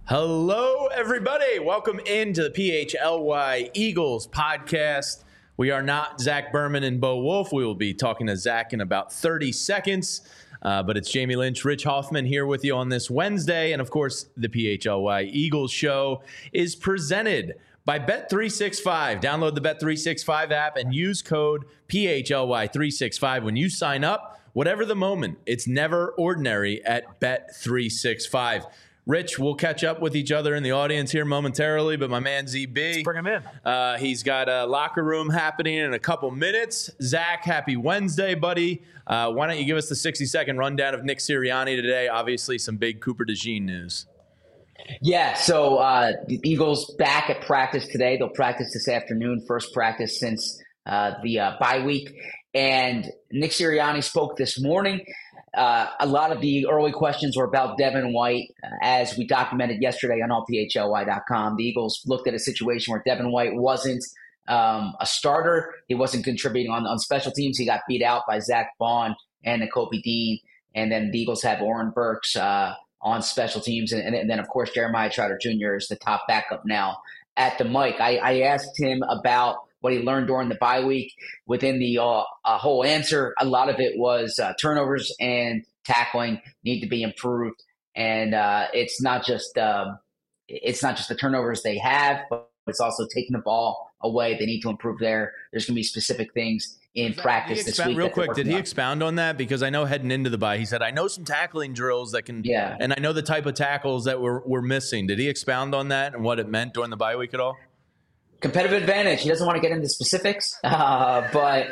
Hello, everybody. Welcome into the PHLY Eagles podcast. We are not Zach Berman and Bo Wolf. We will be talking to Zach in about 30 seconds. But it's Jamie Lynch, Rich Hoffman here with you on this Wednesday. And, of course, the PHLY Eagles show is presented by Bet365. Download the Bet365 app and use code PHLY365 when you sign up. Whatever the moment, it's never ordinary at Bet365. Rich, we'll catch up with each other in the audience here momentarily, but my man ZB. Let's bring him in. He's got a locker room happening in a couple minutes. Zach, happy Wednesday, buddy. Why don't you give us the 60-second rundown of Nick Sirianni today? Obviously, some big Cooper DeJean news. Yeah, so the Eagles back at practice today. They'll practice this afternoon, first practice since the bye week. And Nick Sirianni spoke this morning. A lot of the early questions were about Devin White. As we documented yesterday on allphly.com, the Eagles looked at a situation where Devin White wasn't a starter. He wasn't contributing on special teams. He got beat out by Zach Bond and Nakobe Dean. And then the Eagles have Oren Burks on special teams. And then, of course, Jeremiah Trotter Jr. is the top backup now at the mic. I asked him about what he learned during the bye week. Within the whole answer, a lot of it was turnovers and tackling need to be improved. And it's not just the turnovers they have, but it's also taking the ball away. They need to improve there. There's going to be specific things in practice this week. Real quick, did he expound on that? Because I know heading into the bye, he said, I know some tackling drills that can, and I know the type of tackles that we're missing. Did he expound on that and what it meant during the bye week at all? Competitive advantage. He doesn't want to get into specifics, but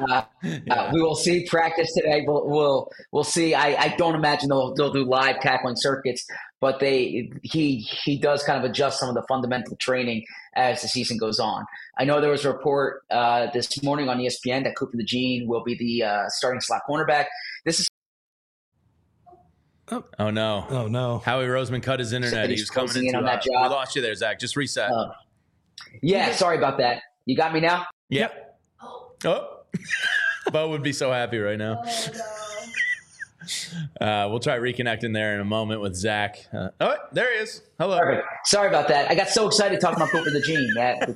we will see practice today. We'll see. I don't imagine they'll do live tackling circuits, but he does kind of adjust some of the fundamental training as the season goes on. I know there was a report this morning on ESPN that Cooper DeJean will be the starting slot cornerback. This is. Oh no! Howie Roseman cut his internet. He was coming in on that job. We lost you there, Zach. Just reset. Yeah, sorry about that. You got me now? Yep. Oh. Bo would be so happy right now. We'll try reconnecting there in a moment with Zach. There he is. Hello. Perfect. Sorry about that. I got so excited talking about Cooper DeJean.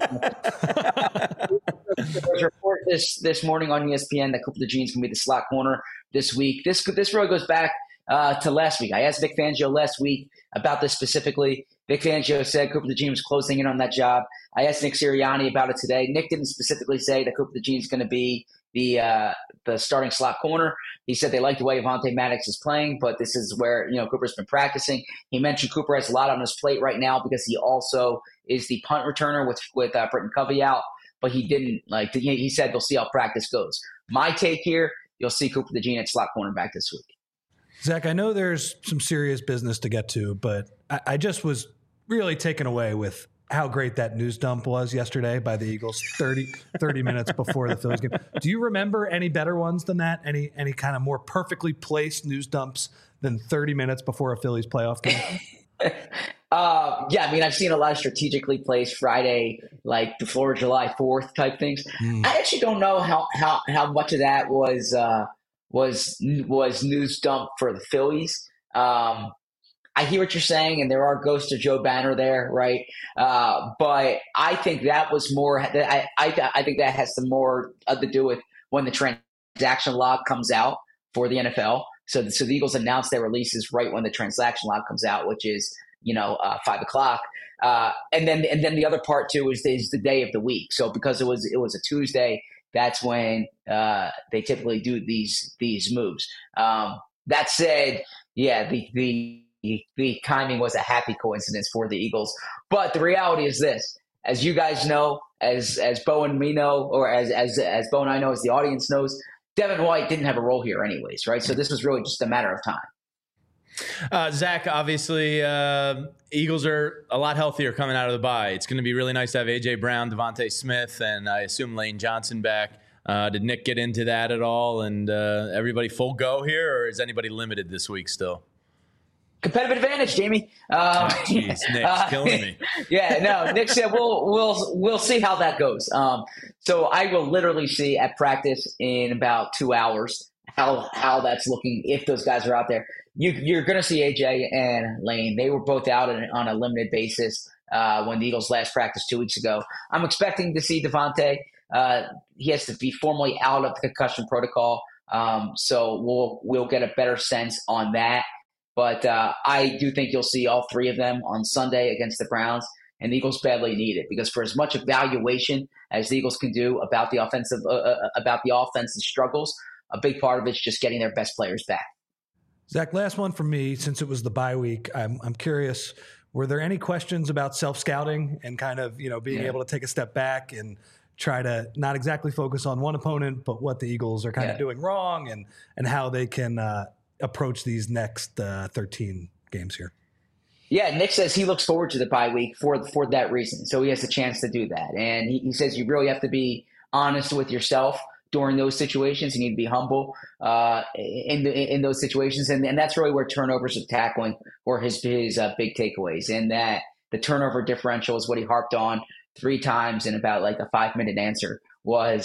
There was a report this morning on ESPN that Cooper DeJean is going to be the slot corner this week. This really goes back to last week. I asked Vic Fangio last week about this specifically. Vic Fangio said Cooper DeJean was closing in on that job. I asked Nick Sirianni about it today. Nick didn't specifically say that Cooper DeJean is going to be the starting slot corner. He said they like the way Avonte Maddox is playing, but this is where Cooper's been practicing. He mentioned Cooper has a lot on his plate right now because he also is the punt returner with Britton Covey out. But he didn't he said they'll see how practice goes. My take here, you'll see Cooper DeJean at slot cornerback this week. Zach, I know there's some serious business to get to, but I just was really taken away with how great that news dump was yesterday by the Eagles 30 minutes before the Phillies game. Do you remember any better ones than that? Any kind of more perfectly placed news dumps than 30 minutes before a Phillies playoff game? Yeah, I mean, I've seen a lot of strategically placed Friday, like before July 4th type things. I actually don't know how much of that was news dump for the Phillies. I hear what you're saying, and there are ghosts of Joe Banner there, right? But I think that was more. I think that has some more to do with when the transaction log comes out for the NFL. So the Eagles announce their releases right when the transaction log comes out, which is 5:00. And then the other part too is the day of the week. So because it was a Tuesday, that's when they typically do these moves. That said, yeah, the timing was a happy coincidence for the Eagles. But the reality is this: as you guys know, as Bo and me know, or as Bo and I know, as the audience knows, Devin White didn't have a role here anyways, right? So this was really just a matter of time. Zach, obviously, Eagles are a lot healthier coming out of the bye. It's going to be really nice to have A.J. Brown, Devontae Smith, and I assume Lane Johnson back. Did Nick get into that at all? And everybody full go here, or is anybody limited this week still? Competitive advantage, Jamie. Jeez, Nick's killing me. Yeah, no, Nick said we'll see how that goes. So I will literally see at practice in about 2 hours how that's looking if those guys are out there. You're going to see AJ and Lane. They were both out on a limited basis when the Eagles last practiced 2 weeks ago. I'm expecting to see Devontae. He has to be formally out of the concussion protocol, so we'll get a better sense on that. But I do think you'll see all three of them on Sunday against the Browns, and the Eagles badly need it because for as much evaluation as the Eagles can do about the offensive struggles, a big part of it's just getting their best players back. Zach, last one from me. Since it was the bye week, I'm curious, were there any questions about self-scouting and kind of, being able to take a step back and try to not exactly focus on one opponent, but what the Eagles are kind of doing wrong and how they can approach these next 13 games here? Yeah, Nick says he looks forward to the bye week for that reason. So he has a chance to do that. And he says you really have to be honest with yourself during those situations. You need to be humble in those situations. And that's really where turnovers of tackling were his big takeaways. And that the turnover differential is what he harped on 3 times in about like a 5-minute answer was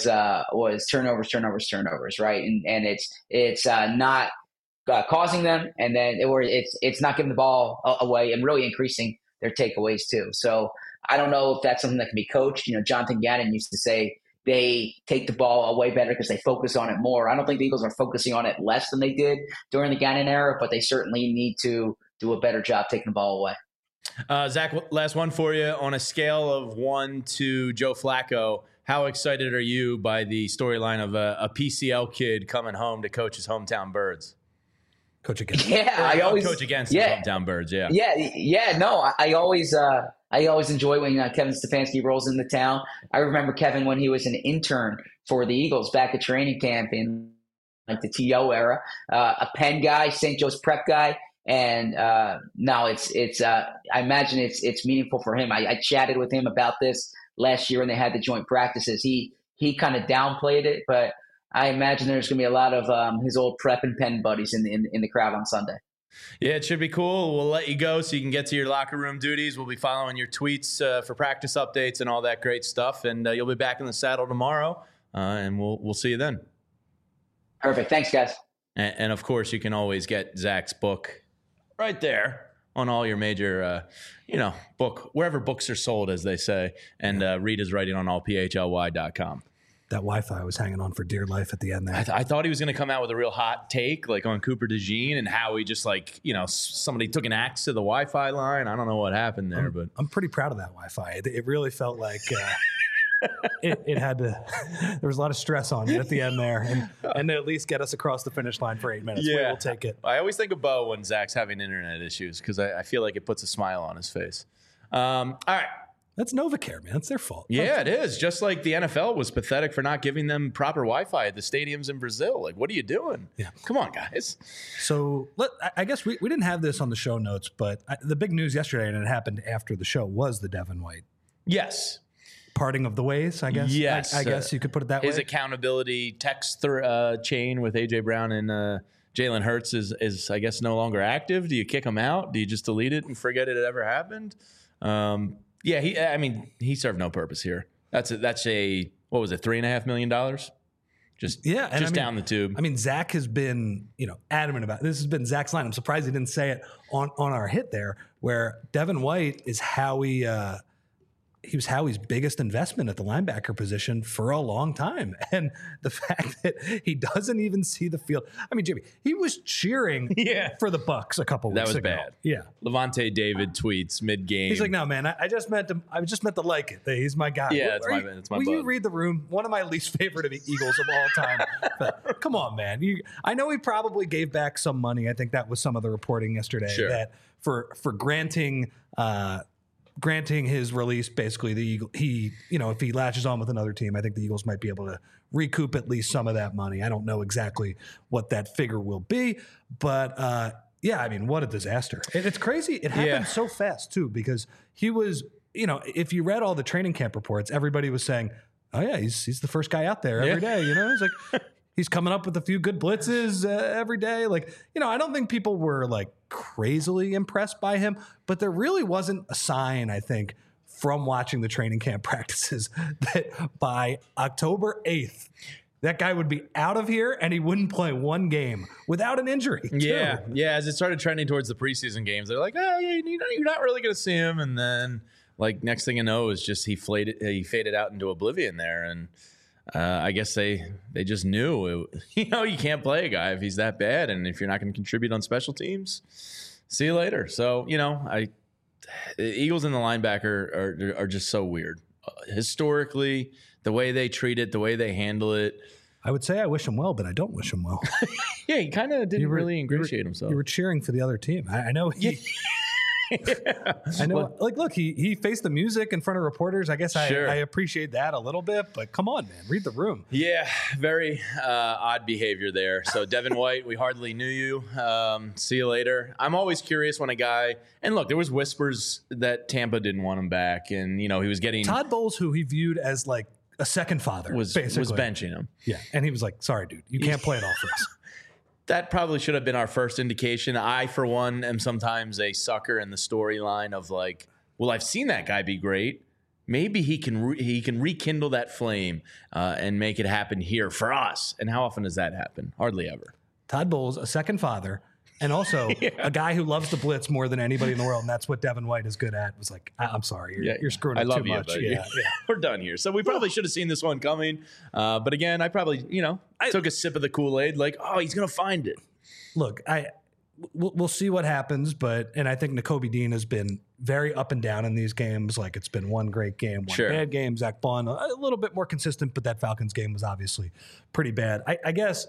turnovers, right? And it's not causing them, and then it's not giving the ball away and really increasing their takeaways too. So I don't know if that's something that can be coached. Jonathan Gannon used to say they take the ball away better because they focus on it more. I don't think the Eagles are focusing on it less than they did during the Gannon era, but they certainly need to do a better job taking the ball away. Zach, last one for you. On a scale of 1 to Joe Flacco, how excited are you by the storyline of a PCL kid coming home to coach his hometown Birds? Coach against. Yeah, I always coach against the hometown Birds. Yeah. No, I always enjoy when Kevin Stefanski rolls into town. I remember Kevin when he was an intern for the Eagles back at training camp in like the TO era, a Penn guy, St. Joe's prep guy, and now it's I imagine it's meaningful for him. I chatted with him about this last year when they had the joint practices. He kind of downplayed it, but I imagine there's going to be a lot of his old prep and Penn buddies in the crowd on Sunday. Yeah, it should be cool. We'll let you go so you can get to your locker room duties. We'll be following your tweets for practice updates and all that great stuff. And you'll be back in the saddle tomorrow, and we'll see you then. Perfect. Thanks, guys. And of course, you can always get Zach's book right there on all your major, book, wherever books are sold, as they say. And read his writing on allphly.com. That Wi-Fi was hanging on for dear life at the end there. I thought he was going to come out with a real hot take, like on Cooper DeJean and how he just somebody took an axe to the Wi-Fi line. I don't know what happened there, but I'm pretty proud of that Wi-Fi. It really felt like it had to. There was a lot of stress on it at the end there, and to at least get us across the finish line for 8 minutes. Yeah, we'll take it. I always think of Bo when Zach's having internet issues because I feel like it puts a smile on his face. All right. That's NovaCare, man. It's their fault. Yeah, it is. Just like the NFL was pathetic for not giving them proper Wi-Fi at the stadiums in Brazil. Like, what are you doing? Yeah. Come on, guys. So I guess we didn't have this on the show notes, but the big news yesterday, and it happened after the show, was the Devin White. Yes. Parting of the ways, I guess. Yes. I guess you could put it that way. His accountability text chain with A.J. Brown and Jalen Hurts is, I guess, no longer active. Do you kick him out? Do you just delete it and forget it ever happened? Yeah, he served no purpose here. That's a what was it, $3.5 million? Just down the tube. I mean, Zach has been adamant about it. This has been Zach's line. I'm surprised he didn't say it on our hit there, where Devin White is he was Howie's biggest investment at the linebacker position for a long time. And the fact that he doesn't even see the field. I mean, Jimmy, he was cheering for the Bucs a couple weeks ago. That was bad. Yeah. Levante David tweets mid-game. He's like, no, man, I just meant to like it. He's my guy. Yeah, it's my Will bud. you read the room? One of my least favorite of the Eagles of all time. But come on, man. I know he probably gave back some money. I think that was some of the reporting yesterday that for granting his release, basically the Eagle, if he latches on with another team, I think the Eagles might be able to recoup at least some of that money. I don't know exactly what that figure will be, but I mean, what a disaster. And it's crazy. It happened so fast too, because he was, if you read all the training camp reports, everybody was saying, oh yeah, he's the first guy out there every day. He's like, he's coming up with a few good blitzes every day. Like, I don't think people were like crazily impressed by him, but there really wasn't a sign, I think, from watching the training camp practices that by October 8th, that guy would be out of here and he wouldn't play one game without an injury. Yeah. As it started trending towards the preseason games, they're like, oh, yeah, you're not really going to see him. And then, like, next thing you know is just he faded out into oblivion there. And I guess they just knew, you can't play a guy if he's that bad. And if you're not going to contribute on special teams, see you later. So, the Eagles and the linebacker are just so weird. Historically, the way they treat it, the way they handle it. I would say I wish him well, but I don't wish him well. Yeah, he kind of didn't really ingratiate himself. You were cheering for the other team. I know he... I know. Look, he faced the music in front of reporters. I guess I appreciate that a little bit, but come on, man, read the room. Yeah, very odd behavior there. So Devin White, we hardly knew you. See you later. I'm always curious when a guy, and look, there was whispers that Tampa didn't want him back, and he was getting Todd Bowles, who he viewed as like a second father, was benching him. Yeah, and he was like, "Sorry, dude, you can't play it all for us." That probably should have been our first indication. I, for one, am sometimes a sucker in the storyline of like, well, I've seen that guy be great. Maybe he can rekindle that flame and make it happen here for us. And how often does that happen? Hardly ever. Todd Bowles, a second father, and also a guy who loves the blitz more than anybody in the world, and that's what Devin White is good at. Was like, I'm sorry, you're screwing up too much. Yeah. We're done here. So we probably should have seen this one coming. But again, I probably, I took a sip of the Kool-Aid, like, oh, he's going to find it. Look, we'll see what happens, and I think Nakobe Dean has been very up and down in these games. Like, it's been one great game, one bad game. Zach Bond, a little bit more consistent, but that Falcons game was obviously pretty bad. I guess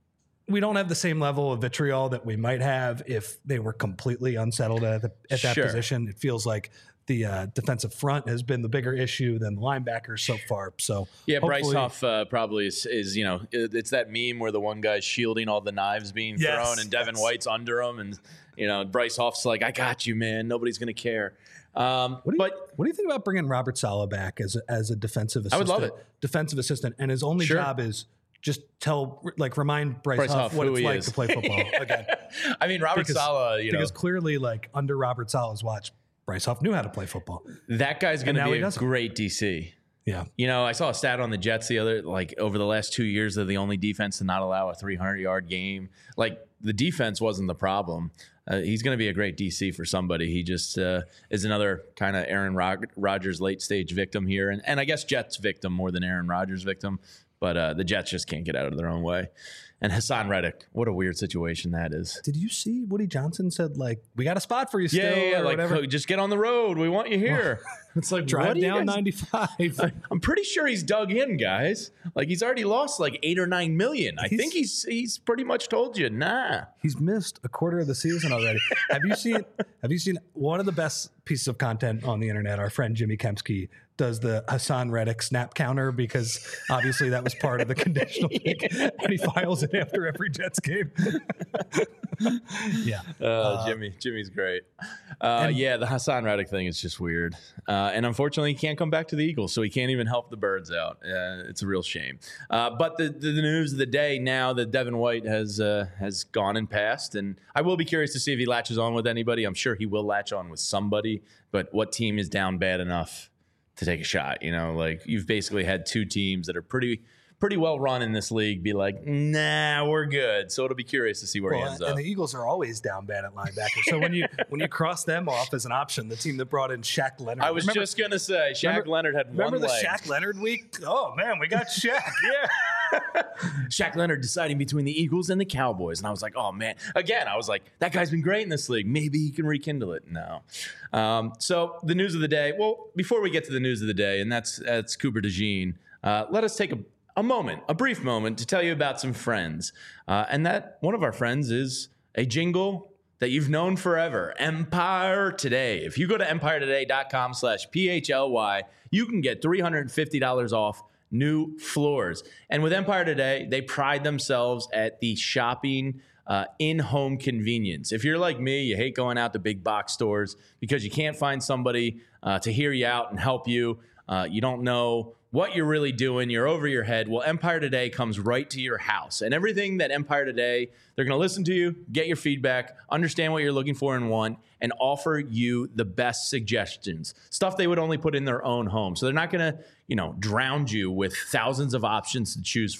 we don't have the same level of vitriol that we might have if they were completely unsettled at that position. It feels like the defensive front has been the bigger issue than the linebackers so far. So yeah, Bryce Huff probably is it's that meme where the one guy's shielding all the knives being thrown and Devin White's under him, and Bryce Huff's like, I got you, man. Nobody's gonna care. What do you think about bringing Robert Saleh back as a defensive assistant? I would love it. Defensive assistant, and his only job is just remind Bryce Huff what it's like to play football again. I mean, Robert Saleh, because clearly, like, under Robert Saleh's watch, Bryce Huff knew how to play football. That guy's going to be a great DC. Yeah. I saw a stat on the Jets over the last 2 years, they're the only defense to not allow a 300-yard game. Like, the defense wasn't the problem. He's going to be a great DC for somebody. He just is another kind of Aaron Rodgers late-stage victim here. And I guess Jets victim more than Aaron Rodgers victim. But the Jets just can't get out of their own way. And Hassan Reddick, what a weird situation that is. Did you see Woody Johnson said, like, we got a spot for you still? Yeah, like, whatever. Just get on the road. We want you here. It's like, drive down 95. I'm pretty sure he's dug in, guys. Like, he's already lost like $8 or $9 million. I think he's pretty much told you, nah. He's missed a quarter of the season already. Have you seen one of the best pieces of content on the internet? Our friend Jimmy Kempski does the Hassan Reddick snap counter, because obviously that was part of the conditional pick, and he files it after every Jets game. Yeah. Jimmy's great. The Hassan Reddick thing is just weird. And unfortunately, he can't come back to the Eagles, so he can't even help the Birds out. It's a real shame. But the news of the day now that Devin White has gone and passed, and I will be curious to see if he latches on with anybody. I'm sure he will latch on with somebody, but what team is down bad enough to take a shot? Like, you've basically had two teams that are pretty well run in this league be like, nah, we're good. So it'll be curious to see where he ends up. And the Eagles are always down bad at linebacker. So when you cross them off as an option, the team that brought in Shaq Leonard. I was just going to say, Shaq Leonard had one leg. Remember the Shaq Leonard week? Oh, man, we got Shaq. Yeah. Shaq Leonard deciding between the Eagles and the Cowboys. And I was like, oh, man. Again, I was like, that guy's been great in this league. Maybe he can rekindle it. No. So the news of the day. Well, before we get to the news of the day, and that's Cooper DeJean, let us take a brief moment to tell you about some friends. And that one of our friends is a jingle that you've known forever, Empire Today. If you go to empiretoday.com/PHLY, you can get $350 off new floors. And with Empire Today, they pride themselves at the shopping in-home convenience. If you're like me, you hate going out to big box stores because you can't find somebody to hear you out and help you. You don't know what you're really doing. You're over your head. Well, Empire Today comes right to your house. And everything that Empire Today, they're going to listen to you, get your feedback, understand what you're looking for and want, and offer you the best suggestions, stuff they would only put in their own home. So they're not going to, drown you with thousands of options to choose from.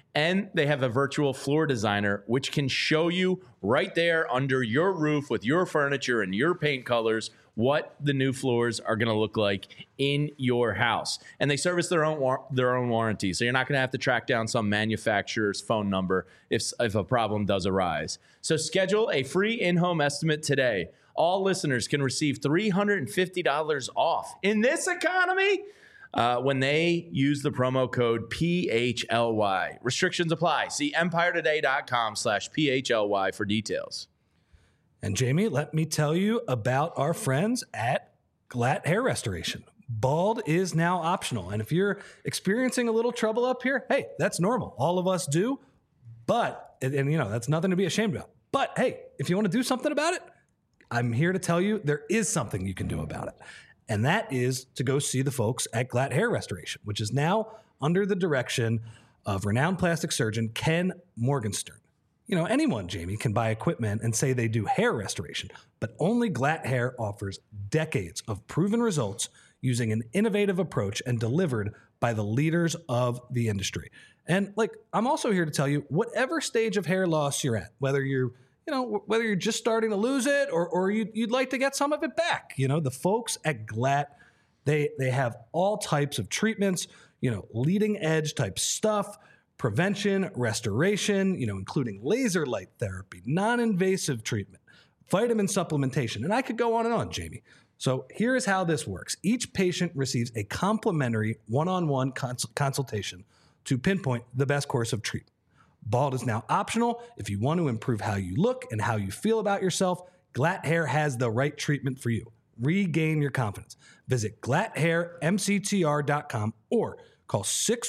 And they have a virtual floor designer, which can show you right there under your roof with your furniture and your paint colors what the new floors are going to look like in your house. And they service their own warranty, so you're not going to have to track down some manufacturer's phone number if a problem does arise. So schedule a free in-home estimate today. All listeners can receive $350 off in this economy when they use the promo code PHLY. Restrictions apply. See EmpireToday.com/PHLY for details. And Jamie, let me tell you about our friends at Glatt Hair Restoration. Bald is now optional. And if you're experiencing a little trouble up here, hey, that's normal. All of us do. But, and you know, that's nothing to be ashamed about. But hey, if you want to do something about it, I'm here to tell you there is something you can do about it. And that is to go see the folks at Glatt Hair Restoration, which is now under the direction of renowned plastic surgeon Ken Morgenstern. You know, anyone, Jamie, can buy equipment and say they do hair restoration, but only Glatt Hair offers decades of proven results using an innovative approach and delivered by the leaders of the industry. And like, I'm also here to tell you, whatever stage of hair loss you're at, whether you're just starting to lose it or you'd like to get some of it back, you know, the folks at Glatt, they have all types of treatments, you know, leading edge type stuff, prevention, restoration, you know, including laser light therapy, non-invasive treatment, vitamin supplementation, and I could go on, Jamie. So here is how this works. Each patient receives a complimentary one-on-one consultation to pinpoint the best course of treatment. Bald is now optional. If you want to improve how you look and how you feel about yourself, Glatt Hair has the right treatment for you. Regain your confidence. Visit glatthairmctr.com or call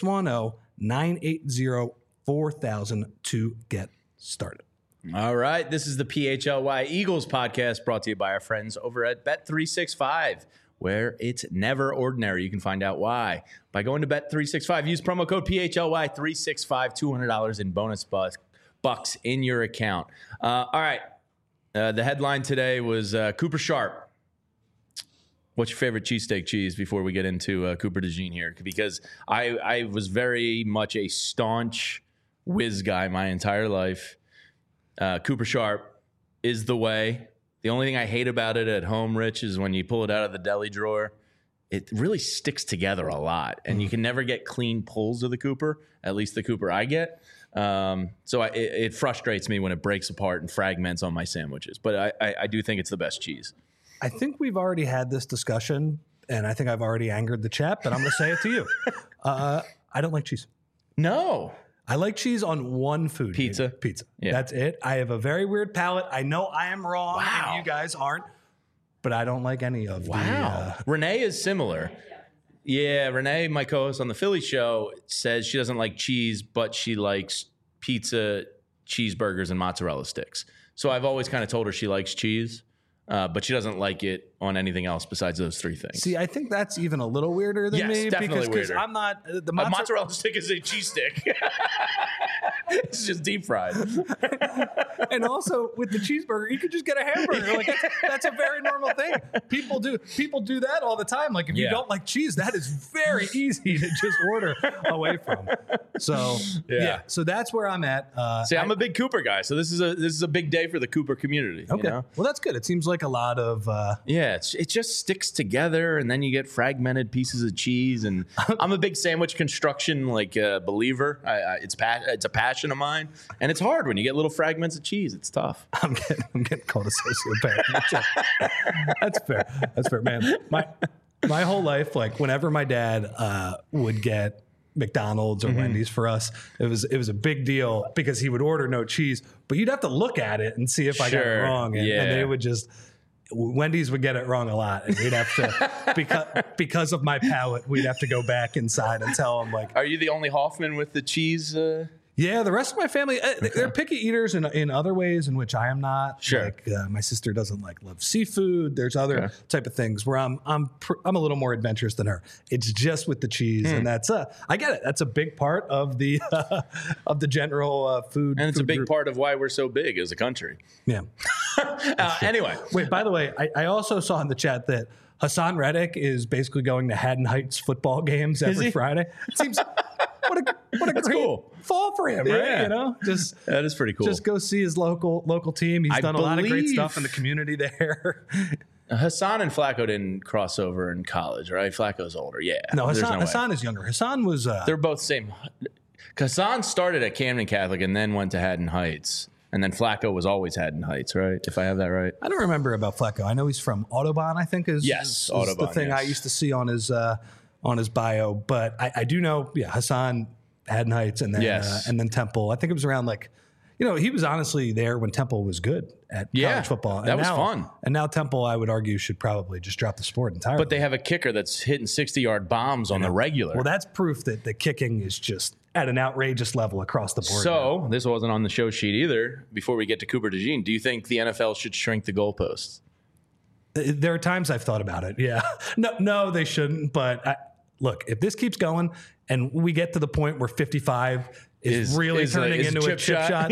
610-980-4000 to get started. All right. This is the PHLY Eagles podcast brought to you by our friends over at Bet365, where it's never ordinary. You can find out why by going to Bet365. Use promo code PHLY365, $200 in bonus bucks in your account. All right. The headline today was Cooper Sharp. What's your favorite cheesesteak cheese before we get into Cooper DeJean here? Because I was very much a staunch whiz guy my entire life. Cooper Sharp is the way. The only thing I hate about it at home, Rich, is when you pull it out of the deli drawer, it really sticks together a lot. And you can never get clean pulls of the Cooper, at least the Cooper I get. So it frustrates me when it breaks apart and fragments on my sandwiches. But I do think it's the best cheese. I think we've already had this discussion, and I think I've already angered the chat, but I'm going to say it to you. I don't like cheese. No. I like cheese on one food. Pizza. Pizza. Yeah. That's it. I have a very weird palate. I know I am wrong. Wow. And you guys aren't, but I don't like any of Wow. Renee is similar. Yeah, Renee, my co-host on the Philly show, says she doesn't like cheese, but she likes pizza, cheeseburgers, and mozzarella sticks. So I've always kind of told her she likes cheese. But she doesn't like it on anything else besides those three things. See, I think that's even a little weirder than me. Definitely because weirder. I'm not A mozzarella stick is a cheese stick. It's just deep fried. And also with the cheeseburger, you could just get a hamburger. Like that's a very normal thing. People do that all the time. Like if you don't like cheese, that is very easy to just order away from. So yeah. So that's where I'm at. See, I'm a big Cooper guy, so this is a big day for the Cooper community. Okay. You know? Well, that's good. It seems like a lot of it just sticks together, and then you get fragmented pieces of cheese. And I'm a big sandwich construction believer. It's a passion of mine, and it's hard when you get little fragments of cheese. It's tough. I'm getting called a sociopath. That's fair. That's fair, man. My whole life, like whenever my dad would get McDonald's or Wendy's for us, it was a big deal because he would order no cheese, but you'd have to look at it and see if I got it wrong, and they would just. Wendy's would get it wrong a lot, and we'd have to because of my palate, we'd have to go back inside and tell them like. Are you the only Hoffman with the cheese? Yeah, the rest of my family, they're picky eaters in other ways in which I am not. Sure. Like my sister doesn't love seafood. There's other type of things where I'm a little more adventurous than her. It's just with the cheese, and that's I get it. That's a big part of the general food. And it's a big group. part of why we're so big as a country. Yeah. Anyway. Wait, by the way, I also saw in the chat that Hassan Reddick is basically going to Haddon Heights football games every Friday. It seems What a That's great cool. fall for him, right? That is pretty cool. Just go see his local team. He's done a lot of great stuff in the community there. Hassan and Flacco didn't cross over in college, right? Flacco's older. Yeah. No, There's Hassan way. is younger. Hassan was. They're both same. Hassan started at Camden Catholic and then went to Haddon Heights. And then Flacco was always Haddon Heights, right? If I have that right. I don't remember about Flacco. I know he's from Audubon, I think is Audubon, the thing I used to see on his bio. But I do know, Hassan, Haddon Heights, and then Temple. I think it was around he was honestly there when Temple was good at college football. That was fun. And now Temple, I would argue, should probably just drop the sport entirely. But they have a kicker that's hitting 60-yard bombs on the regular. Well, that's proof that the kicking is just at an outrageous level across the board. So, this wasn't on the show sheet either. Before we get to Cooper DeJean, do you think the NFL should shrink the goalposts? There are times I've thought about it. Yeah. No, they shouldn't. But look, if this keeps going and we get to the point where 55 is really turning into a chip shot.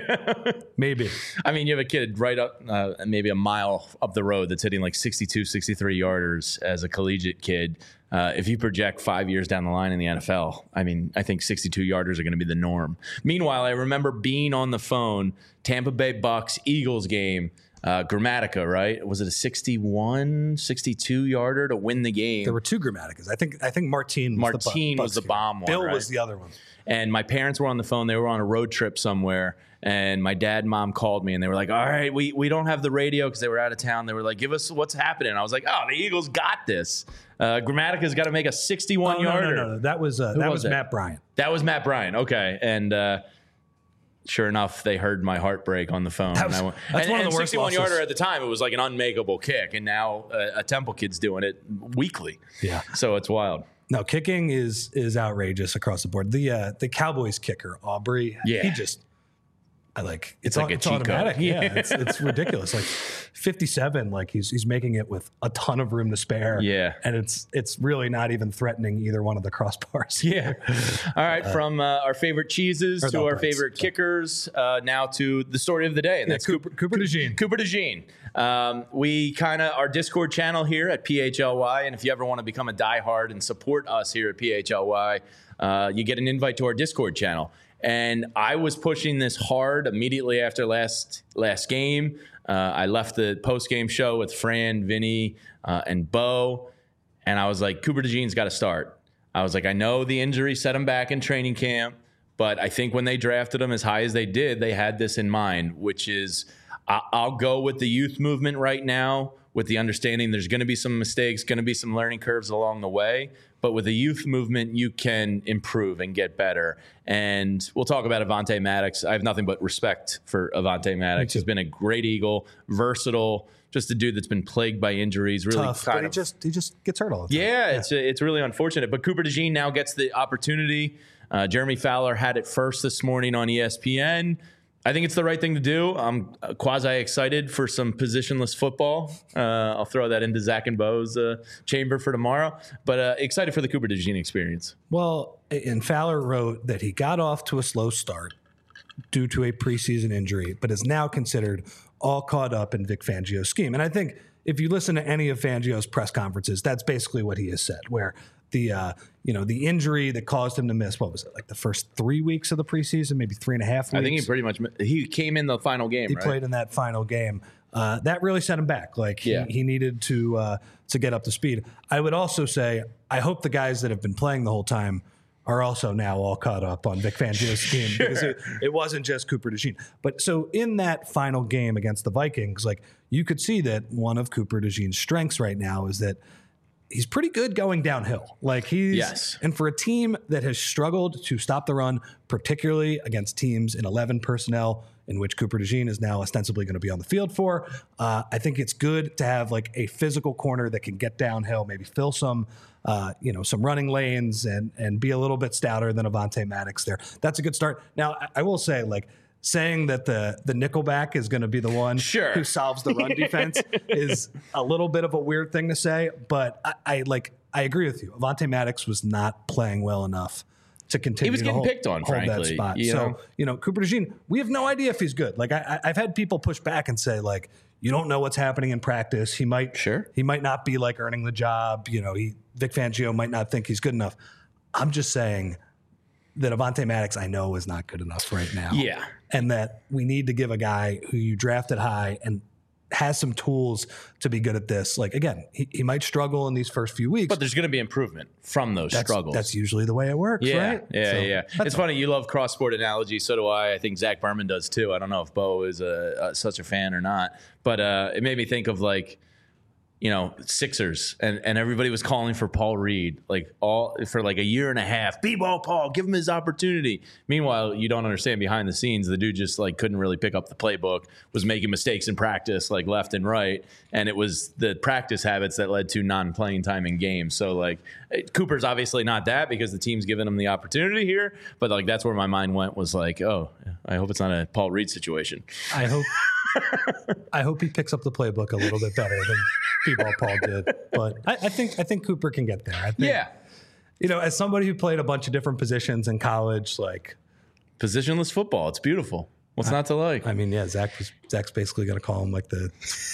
Maybe. I mean, you have a kid right up maybe a mile up the road that's hitting like 62, 63 yarders as a collegiate kid. If you project 5 years down the line in the NFL, I mean, I think 62 yarders are going to be the norm. Meanwhile, I remember being on the phone, Tampa Bay Bucks Eagles game, Grammatica, right? Was it a 61, 62 yarder to win the game? There were two Grammaticas. I think Martine was the bomb one. Bill right? was the other one. And my parents were on the phone. They were on a road trip somewhere. And my dad and mom called me and they were like, all right, we don't have the radio because they were out of town. They were like, give us what's happening. I was like, oh, the Eagles got this. Grammatica's got to make a 61-yarder. No. That was Matt Bryant. That was Matt Bryant. Okay. And sure enough, they heard my heartbreak on the phone. That's one of the worst 61-yarder at the time, it was like an unmakeable kick. And now a Temple kid's doing it weekly. Yeah. So it's wild. No, kicking is outrageous across the board. The Cowboys kicker, Aubrey, he just it's like a cheat automatic. code. Yeah, it's ridiculous. Like 57, like he's making it with a ton of room to spare. Yeah, and it's really not even threatening either one of the crossbars. Yeah. All right, from our favorite cheeses to our favorite kickers, now to the story of the day, and that's Cooper DeJean. Cooper DeJean. We our Discord channel here at PHLY, and if you ever want to become a diehard and support us here at PHLY, you get an invite to our Discord channel. And I was pushing this hard immediately after last game. I left the post-game show with Fran, Vinny, and Bo, and I was like, Cooper DeJean's got to start. I was like, I know the injury set him back in training camp, but I think when they drafted him as high as they did, they had this in mind, which is I'll go with the youth movement right now with the understanding there's going to be some mistakes, going to be some learning curves along the way. But with the youth movement, you can improve and get better. And we'll talk about Avonte Maddox. I have nothing but respect for Avonte Maddox. He's been a great Eagle, versatile, just a dude that's been plagued by injuries. Really tough, but he just gets hurt all the time. Yeah. It's really unfortunate. But Cooper DeJean now gets the opportunity. Jeremy Fowler had it first this morning on ESPN. I think it's the right thing to do. I'm quasi-excited for some positionless football. I'll throw that into Zach and Bo's chamber for tomorrow. But excited for the Cooper DeJean experience. Well, and Fowler wrote that he got off to a slow start due to a preseason injury, but is now considered all caught up in Vic Fangio's scheme. And I think if you listen to any of Fangio's press conferences, that's basically what he has said, where the injury that caused him to miss, what was it, like the first 3 weeks of the preseason, maybe 3.5 weeks? I think he came in the final game, He played in that final game. That really set him back. Like he needed to get up to speed. I would also say, I hope the guys that have been playing the whole time are also now all caught up on Vic Fangio's team because it wasn't just Cooper DeJean. But so in that final game against the Vikings, like you could see that one of Cooper DeJean's strengths right now is that he's pretty good going downhill. Like and for a team that has struggled to stop the run, particularly against teams in 11 personnel, in which Cooper DeJean is now ostensibly going to be on the field for, I think it's good to have like a physical corner that can get downhill, maybe fill some running lanes and be a little bit stouter than Avonte Maddox there. That's a good start. Now, I will say, like, saying that the nickelback is going to be the one who solves the run defense is a little bit of a weird thing to say, but I agree with you. Avonte Maddox was not playing well enough to continue. He was getting picked on, frankly. That spot. Cooper DeJean, we have no idea if he's good. Like I've had people push back and say, like, you don't know what's happening in practice. He might not be like earning the job. Vic Fangio might not think he's good enough. I'm just saying that Avonte Maddox, I know, is not good enough right now. Yeah. And that we need to give a guy who you drafted high and has some tools to be good at this. Like, again, he might struggle in these first few weeks. But there's going to be improvement from those struggles. That's usually the way it works, right? Yeah. It's funny. You love cross-sport analogies. So do I. I think Zach Berman does too. I don't know if Bo is such a fan or not. But it made me think of like, Sixers, and everybody was calling for Paul Reed, for like a year and a half. B-ball Paul, give him his opportunity. Meanwhile, you don't understand behind the scenes, the dude just like couldn't really pick up the playbook, was making mistakes in practice like left and right, and it was the practice habits that led to non-playing time in games. So like Cooper's obviously not that because the team's given him the opportunity here, but like that's where my mind went, was like, oh, I hope it's not a Paul Reed situation. I hope he picks up the playbook a little bit better than B-ball Paul did. But I think Cooper can get there. I think, as somebody who played a bunch of different positions in college, like positionless football, it's beautiful. What's not to like? I mean, Zach's basically going to call him like the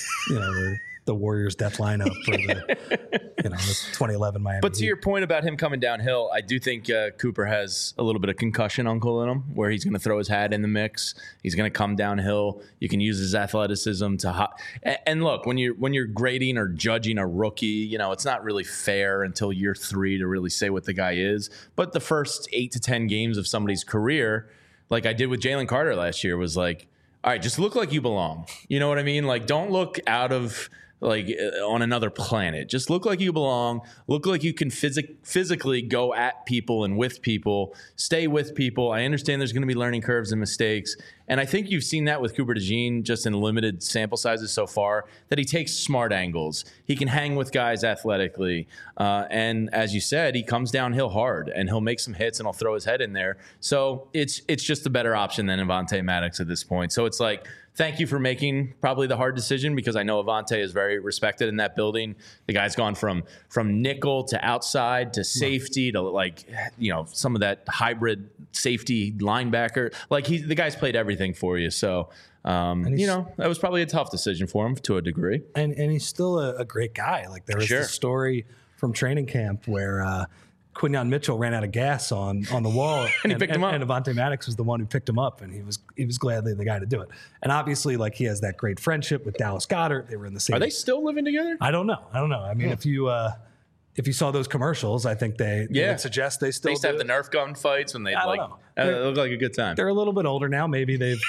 Warriors death lineup for the 2011 Miami. But to your point about him coming downhill, I do think Cooper has a little bit of concussion uncle in him, where he's going to throw his hat in the mix. He's going to come downhill. You can use his athleticism to and look, when you're grading or judging a rookie, it's not really fair until year 3 to really say what the guy is. But the first 8 to 10 games of somebody's career, like I did with Jalen Carter last year, was like, all right, just look like you belong. You know what I mean? Like, don't look out of on another planet. Just look like you belong. Look like you can physically go at people and with people, stay with people. I understand there's going to be learning curves and mistakes. And I think you've seen that with Cooper DeJean just in limited sample sizes so far, that he takes smart angles. He can hang with guys athletically. And as you said, he comes downhill hard and he'll make some hits and he'll throw his head in there. So it's just a better option than Avonte Maddox at this point. So it's like, thank you for making probably the hard decision, because I know Avonte is very respected in that building. The guy's gone from nickel to outside to safety to some of that hybrid safety linebacker. Like the guy's played everything for you. So, that was probably a tough decision for him to a degree. And he's still a great guy. Like there was this story from training camp where Quinyon Mitchell ran out of gas on the wall, and he picked him up. And Avonte Maddox was the one who picked him up, and he was gladly the guy to do it. And obviously, like he has that great friendship with Dallas Goedert. They were in the same. Are they still living together? I don't know. I mean, if you saw those commercials, I think they would suggest they still. They used to have the Nerf gun fights when they it looked like a good time. They're a little bit older now. Maybe they've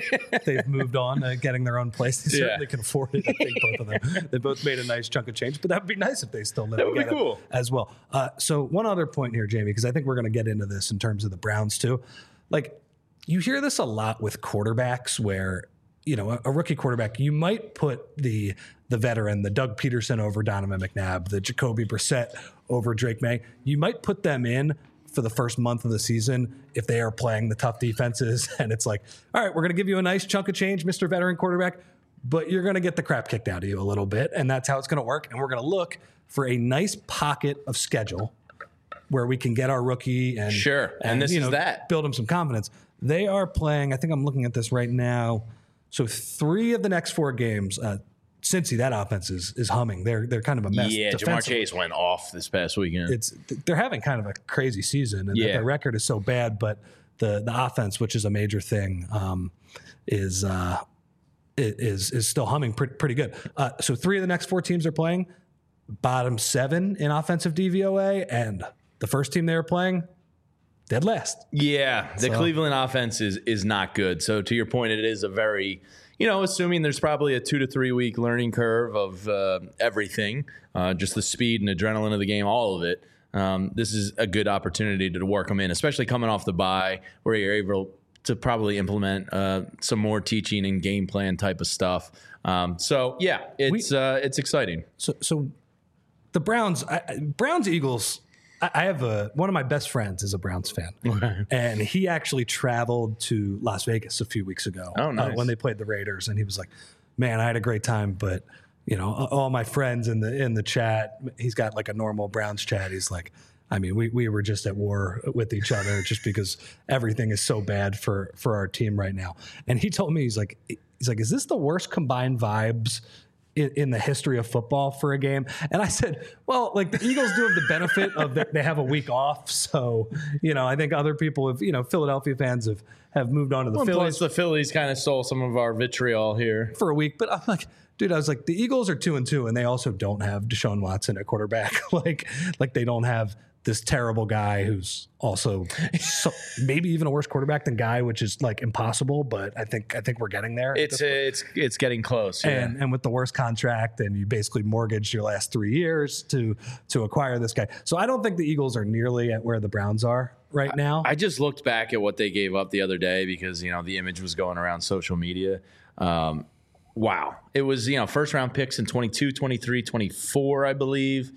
moved on to getting their own place. They certainly can afford it. I think both of them. They both made a nice chunk of change, but that would be nice if they still live together. That would be cool as well. So one other point here, Jamie, because I think we're going to get into this in terms of the Browns too. Like you hear this a lot with quarterbacks, where a rookie quarterback, you might put the veteran, the Doug Peterson over Donovan McNabb, the Jacoby Brissett over Drake May. You might put them in for the first month of the season if they are playing the tough defenses. And it's like, all right, we're going to give you a nice chunk of change, Mr. Veteran Quarterback, but you're going to get the crap kicked out of you a little bit. And that's how it's going to work. And we're going to look for a nice pocket of schedule where we can get our rookie and this is that. Build him some confidence. They are playing, I think I'm looking at this right now. So 3 of the next 4 games, Cincy, that offense is humming. They're kind of a mess. Yeah, Jamar Chase went off this past weekend. They're having kind of a crazy season, and their record is so bad. But the offense, which is a major thing, is still humming pretty good. So 3 of the next 4 teams are playing bottom 7 in offensive DVOA, and the first team they were playing, dead last. Yeah, the Cleveland offense is not good. So to your point, it is a very, assuming there's probably a 2 to 3 week learning curve of everything, just the speed and adrenaline of the game, all of it. This is a good opportunity to work them in, especially coming off the bye, where you're able to probably implement some more teaching and game plan type of stuff. It's exciting. So the Browns Eagles. I have one of my best friends is a Browns fan, and he actually traveled to Las Vegas a few weeks ago when they played the Raiders, and he was like, "Man, I had a great time, but all my friends in the chat, he's got like a normal Browns chat. He's like, I mean, we were just at war with each other just because everything is so bad for our team right now." And he told me, he's like, is this the worst combined vibes in the history of football for a game. And I said, well, like the Eagles do have the benefit of that they have a week off. So, I think other people have, Philadelphia fans have moved on to the Phillies. Plus the Phillies kind of stole some of our vitriol here for a week. But I'm like, dude, I was like, the Eagles are 2-2, and they also don't have Deshaun Watson at quarterback. like they don't have this terrible guy who's also maybe even a worse quarterback than Guy, which is like impossible. But I think we're getting there. It's getting close. Yeah. And with the worst contract, and you basically mortgaged your last 3 years to acquire this guy. So I don't think the Eagles are nearly at where the Browns are right now. I just looked back at what they gave up the other day because the image was going around social media. Wow. It was, first round picks in 22, 23, 24, I believe.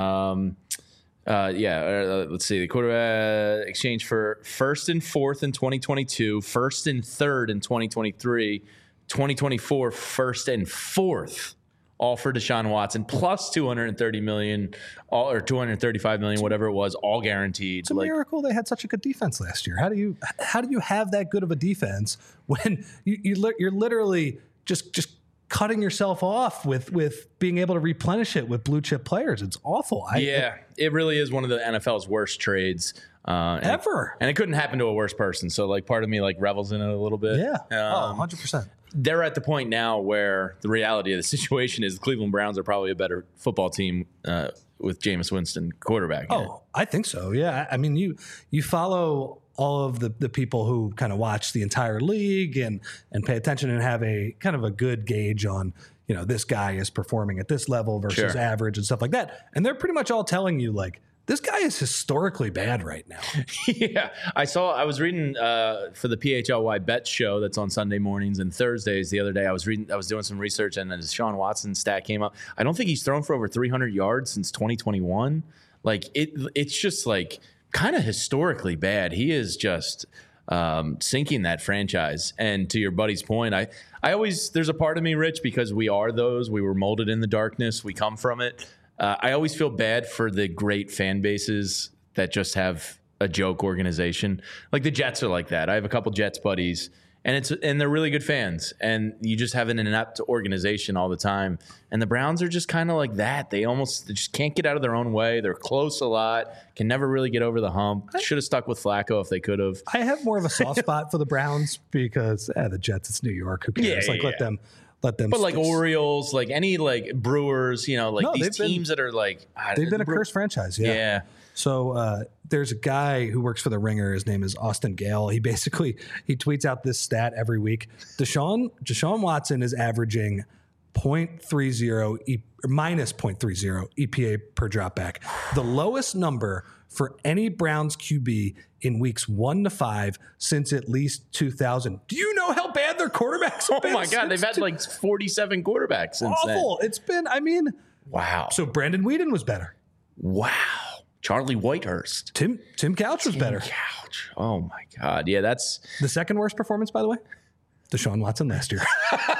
Let's see. The quarterback exchange for first and fourth in 2022, first and third in 2023, 2024, first and fourth, all for Deshaun Watson, plus $230 million, or $235 million, whatever it was, all guaranteed. It's a miracle they had such a good defense last year. How do you have that good of a defense when you're literally just cutting yourself off with being able to replenish it with blue chip players? It's awful. It really is one of the NFL's worst trades ever. And it couldn't happen to a worse person. So part of me revels in it a little bit. Yeah. 100%. They're at the point now where the reality of the situation is the Cleveland Browns are probably a better football team with Jameis Winston quarterback. Oh, I think so. Yeah. I mean, you follow all of the people who kind of watch the entire league and pay attention and have a kind of a good gauge on, this guy is performing at this level versus average and stuff like that. And they're pretty much all telling you this guy is historically bad right now. Yeah. I was reading for the PHLY Bet show that's on Sunday mornings and Thursdays the other day. I was doing some research, and the Deshaun Watson stat came up. I don't think he's thrown for over 300 yards since 2021. It's just kind of historically bad. He is just sinking that franchise. And to your buddy's point, I always, there's a part of me, Rich, because we were molded in the darkness. We come from it. I always feel bad for the great fan bases that just have a joke organization. Like the Jets are like that. I have a couple Jets buddies, and they're really good fans. And you just have an inept organization all the time. And the Browns are just kind of like that. They just can't get out of their own way. They're close a lot, can never really get over the hump. Should have stuck with Flacco if they could have. I have more of a soft spot for the Browns because the Jets, it's New York. Who cares? Let them. But Orioles, any Brewers, these teams that are they've been a cursed franchise. Yeah. So there's a guy who works for The Ringer. His name is Austin Gale. He tweets out this stat every week. Deshaun Watson is averaging minus 0.30 EPA per dropback. The lowest number for any Browns QB in weeks 1 to 5 since at least 2000. Do you know how bad their quarterbacks have been? Oh my God, they've had 47 quarterbacks since awful. Then. It's been, wow. So Brandon Weeden was better. Wow. Charlie Whitehurst. Tim Couch was better. Couch. Oh my God. Yeah, that's the second worst performance, by the way. Deshaun Watson last year.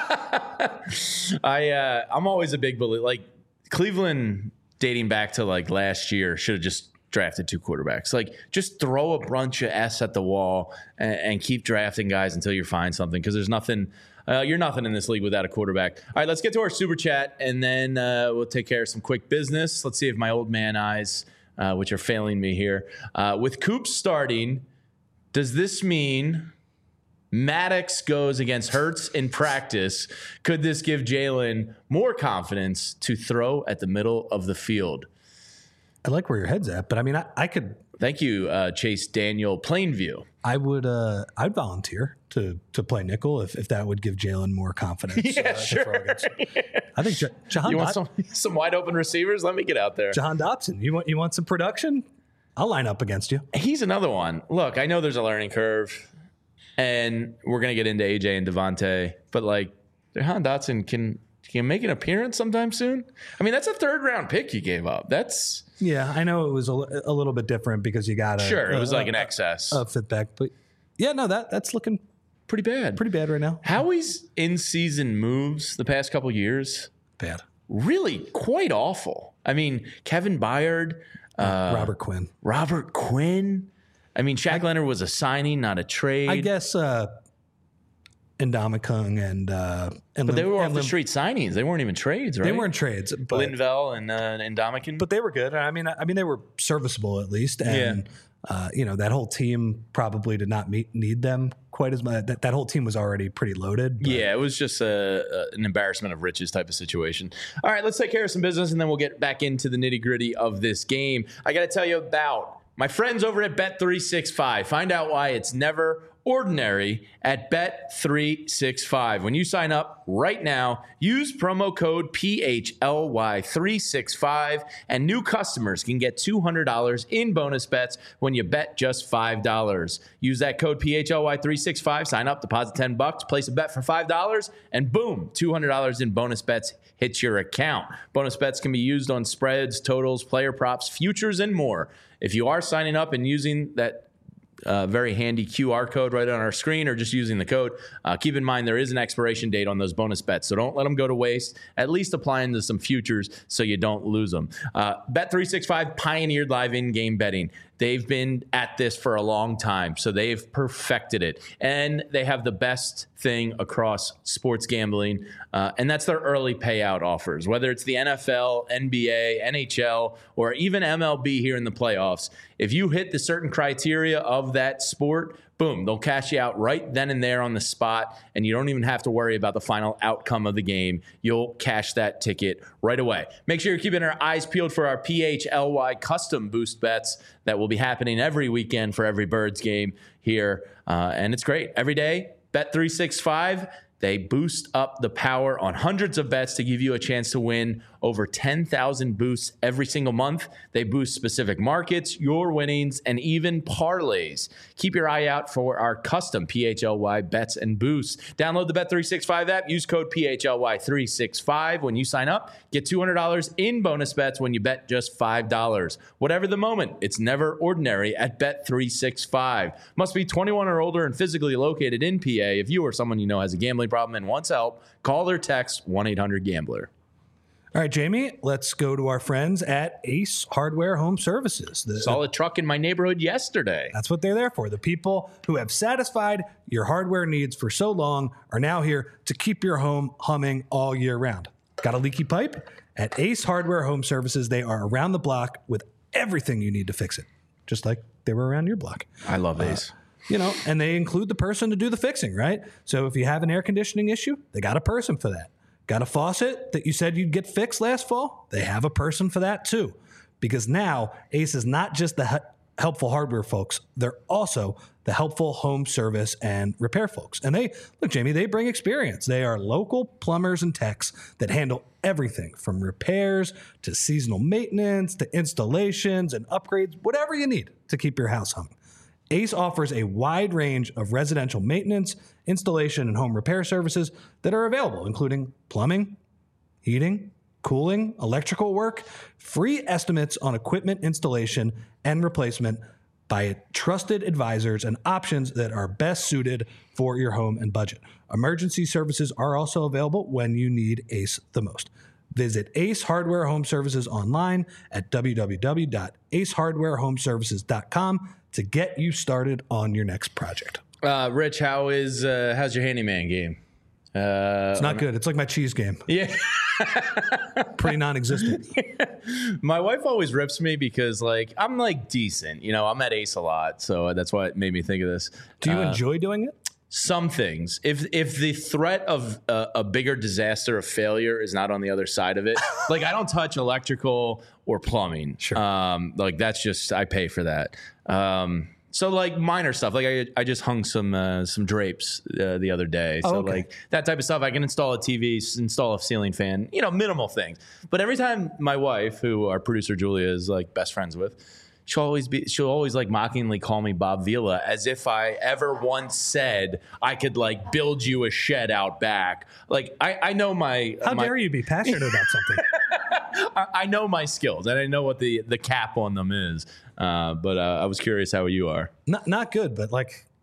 I'm always a big believer. Cleveland, dating back to last year, should have just drafted 2 quarterbacks. Just throw a bunch of S at the wall and keep drafting guys until you find something, because there's nothing. You're nothing in this league without a quarterback. All right, let's get to our super chat, and then we'll take care of some quick business. Let's see if my old man eyes, which are failing me here. With Coop starting, does this mean Maddox goes against Hurts in practice? Could this give Jalen more confidence to throw at the middle of the field? I like where your head's at, but I could. Thank you, Chase Daniel Plainview. I'd volunteer to play nickel if that would give Jalen more confidence. Yeah, sure. I think Jahan. You want some wide open receivers? Let me get out there. Jahan Dobson. You want some production? I'll line up against you. He's another one. Look, I know there's a learning curve, and we're gonna get into AJ and Devontae, but Jahan Dotson can make an appearance sometime soon. That's a 3rd round pick you gave up. Yeah, I know it was a little bit different because you got it was an excess fit back, but yeah, no, that's looking pretty bad right now. Howie's in season moves the past couple years, bad, really quite awful. Kevin Byard, Robert Quinn. Shaq Leonard was a signing, not a trade. I guess Indomikung and but they were off the street signings. They weren't even trades, right? They weren't trades. But, Linval and Indomikun. But they were good. I mean, they were serviceable at least. And, that whole team probably did not need them quite as much. That whole team was already pretty loaded. But. Yeah, it was just an embarrassment of riches type of situation. All right, let's take care of some business, and then we'll get back into the nitty-gritty of this game. I got to tell you about my friends over at Bet365. Find out why it's never ordinary at Bet365. When you sign up right now, use promo code PHLY365, and new customers can get $200 in bonus bets when you bet just $5. Use that code PHLY365, sign up, deposit $10, place a bet for $5, and boom, $200 in bonus bets hits your account. Bonus bets can be used on spreads, totals, player props, futures, and more. If you are signing up and using that very handy QR code right on our screen, or just using the code, keep in mind there is an expiration date on those bonus bets, so don't let them go to waste. At least apply into some futures so you don't lose them. Bet365 pioneered live in-game betting. They've been at this for a long time, so they've perfected it. And they have the best thing across sports gambling, and that's their early payout offers. Whether it's the NFL, NBA, NHL, or even MLB here in the playoffs, if you hit the certain criteria of that sport, boom, they'll cash you out right then and there on the spot, and you don't even have to worry about the final outcome of the game. You'll cash that ticket right away. Make sure you're keeping our eyes peeled for our PHLY custom boost bets that will be happening every weekend for every Birds game here, and it's great. Every day, Bet365, they boost up the power on hundreds of bets to give you a chance to win over 10,000 boosts every single month. They boost specific markets, your winnings, and even parlays. Keep your eye out for our custom PHLY bets and boosts. Download the Bet365 app. Use code PHLY365 when you sign up. Get $200 in bonus bets when you bet just $5. Whatever the moment, it's never ordinary at Bet365. Must be 21 or older and physically located in PA. If you or someone you know has a gambling problem and wants help, call or text 1-800-GAMBLER. All right, Jamie, let's go to our friends at Ace Hardware Home Services. Saw a truck in my neighborhood yesterday. That's what they're there for. The people who have satisfied your hardware needs for so long are now here to keep your home humming all year round. Got a leaky pipe? At Ace Hardware Home Services, they are around the block with everything you need to fix it, just like they were around your block. I love Ace. And they include the person to do the fixing, right? So if you have an air conditioning issue, they got a person for that. Got a faucet that you said you'd get fixed last fall? They have a person for that too. Because now Ace is not just the helpful hardware folks, they're also the helpful home service and repair folks. And Jamie, they bring experience. They are local plumbers and techs that handle everything from repairs to seasonal maintenance to installations and upgrades, whatever you need to keep your house humming. Ace offers a wide range of residential maintenance, installation, and home repair services that are available, including plumbing, heating, cooling, electrical work, free estimates on equipment installation and replacement by trusted advisors, and options that are best suited for your home and budget. Emergency services are also available when you need Ace the most. Visit Ace Hardware Home Services online at www.acehardwarehomeservices.com to get you started on your next project. Rich, how's your handyman game? It's not good. It's like my cheese game. Yeah. Pretty non-existent. My wife always rips me because I'm decent. I'm at Ace a lot, so that's why it made me think of this. Do you enjoy doing it? Some things. If the threat of a bigger disaster of failure is not on the other side of it, I don't touch electrical or plumbing. Sure. That's just, I pay for that. So minor stuff, I just hung some drapes the other day. So okay. That type of stuff, I can install a TV, install a ceiling fan, minimal things. But every time my wife, who our producer Julia is best friends with, she'll always mockingly call me Bob Vila, as if I ever once said I could build you a shed out back. I know my. How dare you be passionate about something? I know my skills and I know what the cap on them is. But I was curious how you are. Not good, but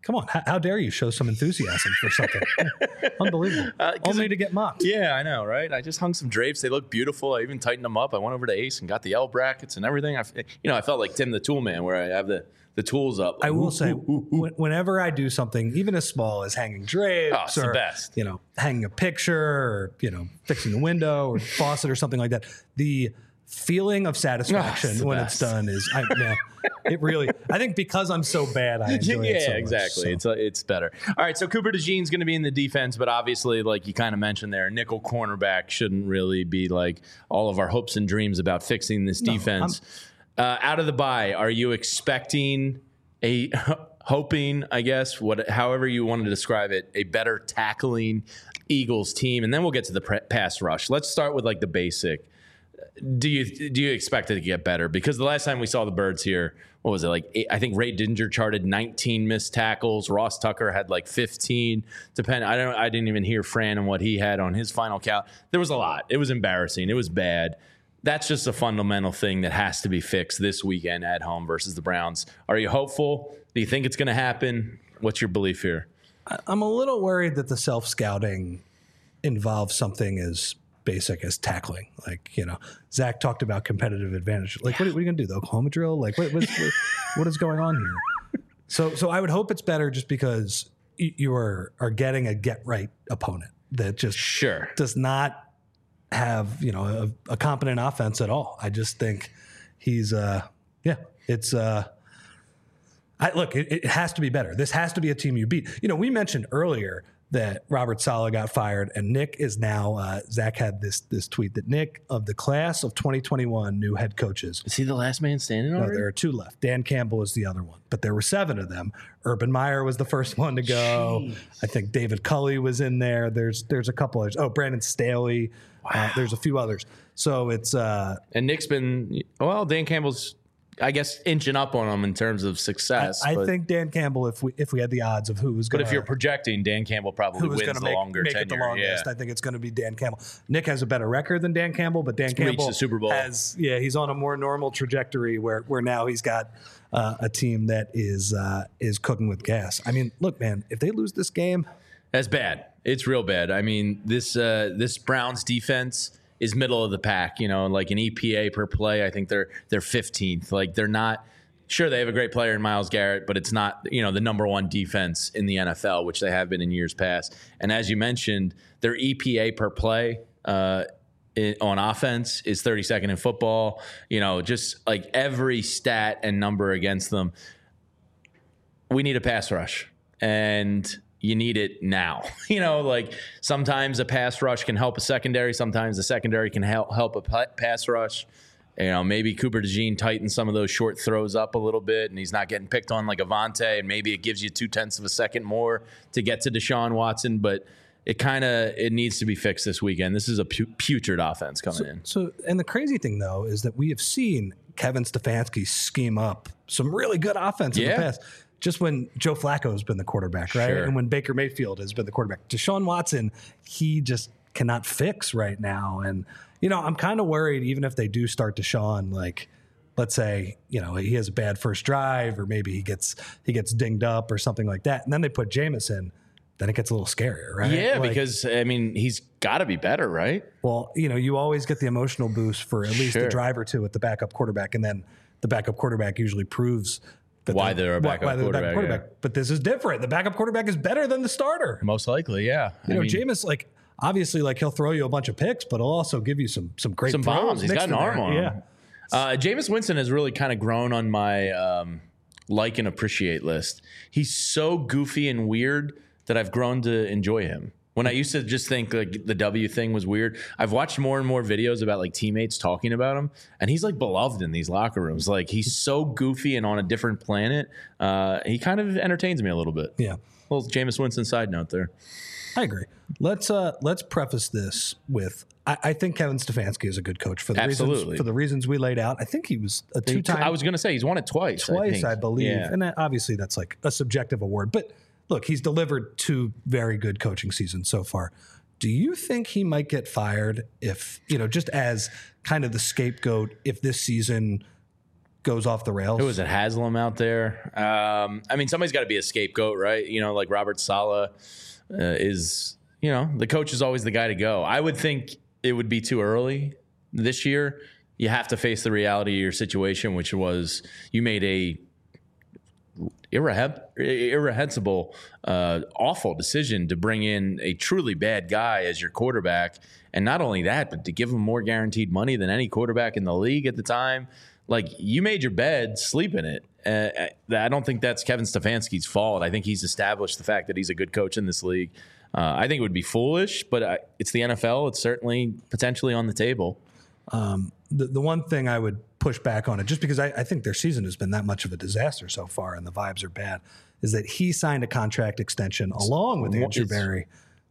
Come on, how dare you show some enthusiasm for something? Unbelievable. Only to get mocked. Yeah, I know, right? I just hung some drapes. They look beautiful. I even tightened them up. I went over to Ace and got the L brackets and everything. I felt like Tim the Tool Man, where I have the tools up. I will say, whenever I do something, even as small as hanging drapes it's or the best. Hanging a picture or fixing the window or faucet or something like that, the feeling of satisfaction when it's done is, it really. I think because I'm so bad, I enjoy it so much. Exactly. So. It's better. All right, so Cooper DeJean's going to be in the defense, but obviously, like you kind of mentioned there, nickel cornerback shouldn't really be like all of our hopes and dreams about fixing this defense. Out of the bye, are you expecting hoping, I guess, however you want to describe it, a better tackling Eagles team? And then we'll get to the pass rush. Let's start with like the basic. Do you expect it to get better? Because the last time we saw the Birds here, what was it like? I think Ray Dinger charted 19 missed tackles. Ross Tucker had like 15. I didn't even hear Fran and what he had on his final count. There was a lot. It was embarrassing. It was bad. That's just a fundamental thing that has to be fixed this weekend at home versus the Browns. Are you hopeful? Do you think it's going to happen? What's your belief here? I'm a little worried that the self-scouting involves something as basic as tackling. Like, Zach talked about competitive advantage. Like, what are you going to do? The Oklahoma drill? Like, what is going on here? So I would hope it's better just because you are getting a get-right opponent that just does not have, a competent offense at all. I just think he's, it has to be better. This has to be a team you beat. We mentioned earlier that Robert Saleh got fired, and Nick is now, Zach had this tweet that Nick, of the class of 2021 new head coaches. Is he the last man standing already? No, there are 2 left. Dan Campbell is the other one, but there were 7 of them. Urban Meyer was the first one to go. Jeez. I think David Culley was in there. There's a couple others. Oh, Brandon Staley. Wow. There's a few others. So it's... and Nick's been... Well, Dan Campbell's, I guess, inching up on him in terms of success. I think Dan Campbell, if we had the odds of who was going to... But if you're projecting, Dan Campbell probably wins the longer tenure. It the longest. I think it's going to be Dan Campbell. Nick has a better record than Dan Campbell, but Dan Campbell reached the Super Bowl. He's on a more normal trajectory where now he's got a team that is cooking with gas. I mean, look, man, if they lose this game... That's bad. It's real bad. I mean, this Browns defense is middle of the pack, like an EPA per play. I think they're 15th. Like, they're not sure, they have a great player in Myles Garrett, but it's not, the number one defense in the NFL, which they have been in years past. And as you mentioned, their EPA per play on offense is 32nd in football. Just like every stat and number against them. We need a pass rush, and you need it now. Like sometimes a pass rush can help a secondary. Sometimes the secondary can help a pass rush. Maybe Cooper DeJean tightens some of those short throws up a little bit, and he's not getting picked on like Avonte, and maybe it gives you 0.2 of a second more to get to Deshaun Watson. But it needs to be fixed this weekend. This is a putrid offense coming in. So, and the crazy thing though is that we have seen Kevin Stefanski scheme up some really good offense in the past. Just when Joe Flacco has been the quarterback, right? Sure. And when Baker Mayfield has been the quarterback. Deshaun Watson, he just cannot fix right now. And, I'm kind of worried even if they do start Deshaun, like, let's say, he has a bad first drive or maybe he gets dinged up or something like that. And then they put Jameson, then it gets a little scarier, right? Yeah, because, he's got to be better, right? Well, you always get the emotional boost for at least a drive or two with the backup quarterback. And then the backup quarterback usually proves why they're a backup quarterback. Yeah. But this is different. The backup quarterback is better than the starter. Most likely, yeah. Jameis, obviously, he'll throw you a bunch of picks, but he'll also give you some great some bombs. He's got an arm on him. Jameis Winston has really kind of grown on my like and appreciate list. He's so goofy and weird that I've grown to enjoy him. When I used to just think like the W thing was weird, I've watched more and more videos about like teammates talking about him, and he's like beloved in these locker rooms. Like he's so goofy and on a different planet. He kind of entertains me a little bit. Yeah. Little Jameis Winston side note there. I agree. Let's preface this with I think Kevin Stefanski is a good coach for the reasons we laid out. I think he was a 2-time. I was going to say he's won it twice. I believe, and obviously that's like a subjective award, but. Look, he's delivered 2 very good coaching seasons so far. Do you think he might get fired if, just as kind of the scapegoat, if this season goes off the rails. Who was it? Haslam out there. I mean, somebody's got to be a scapegoat, right? You know, like Robert Saleh is. You know, the coach is always the guy to go. I would think it would be too early this year. You have to face the reality of your situation, which was you made a irrehensible, awful decision to bring in a truly bad guy as your quarterback. And not only that, but to give him more guaranteed money than any quarterback in the league at the time. Like, you made your bed, sleep in it. I don't think that's Kevin Stefanski's fault. I think he's established the fact that he's a good coach in this league. I think it would be foolish, but it's the NFL. It's certainly potentially on the table. The one thing I would push back on it, just because I think their season has been that much of a disaster so far and the vibes are bad, is that he signed a contract extension along with Andrew Berry.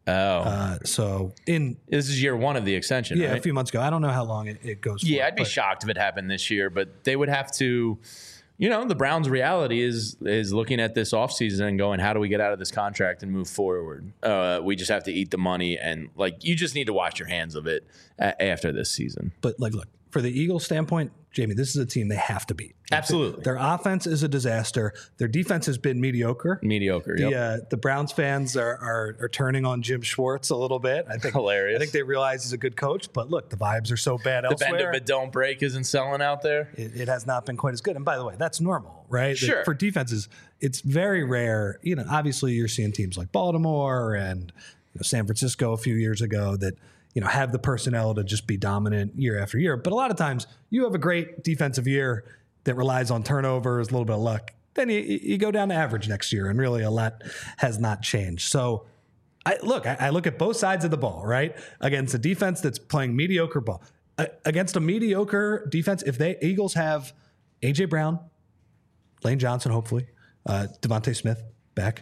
So this is year one of the extension, right? A few months ago. I don't know how long it goes for. Yeah, I'd be shocked if it happened this year, but they would have to. You know, the Browns' reality is looking at this offseason and going, how do we get out of this contract and move forward? We just have to eat the money, and like, you just need to wash your hands of it after this season. But like, look, for the Eagles' standpoint, Jamie, this is a team they have to beat. Absolutely. Their offense is a disaster. Their defense has been mediocre. Yep. The Browns fans are turning on Jim Schwartz a little bit. I think hilarious. I think they realize he's a good coach, but look, the vibes are so bad elsewhere. The bend but don't break isn't selling out there. It has not been quite as good. And by the way, that's normal, right? Sure. For defenses, it's very rare. You know, obviously you're seeing teams like Baltimore and San Francisco a few years ago that have the personnel to just be dominant year after year. But a lot of times you have a great defensive year that relies on turnovers, a little bit of luck. Then you go down to average next year, and really a lot has not changed. So I look at both sides of the ball, right? Against a defense that's playing mediocre ball. Against a mediocre defense, if Eagles have A.J. Brown, Lane Johnson, hopefully, Devontae Smith back,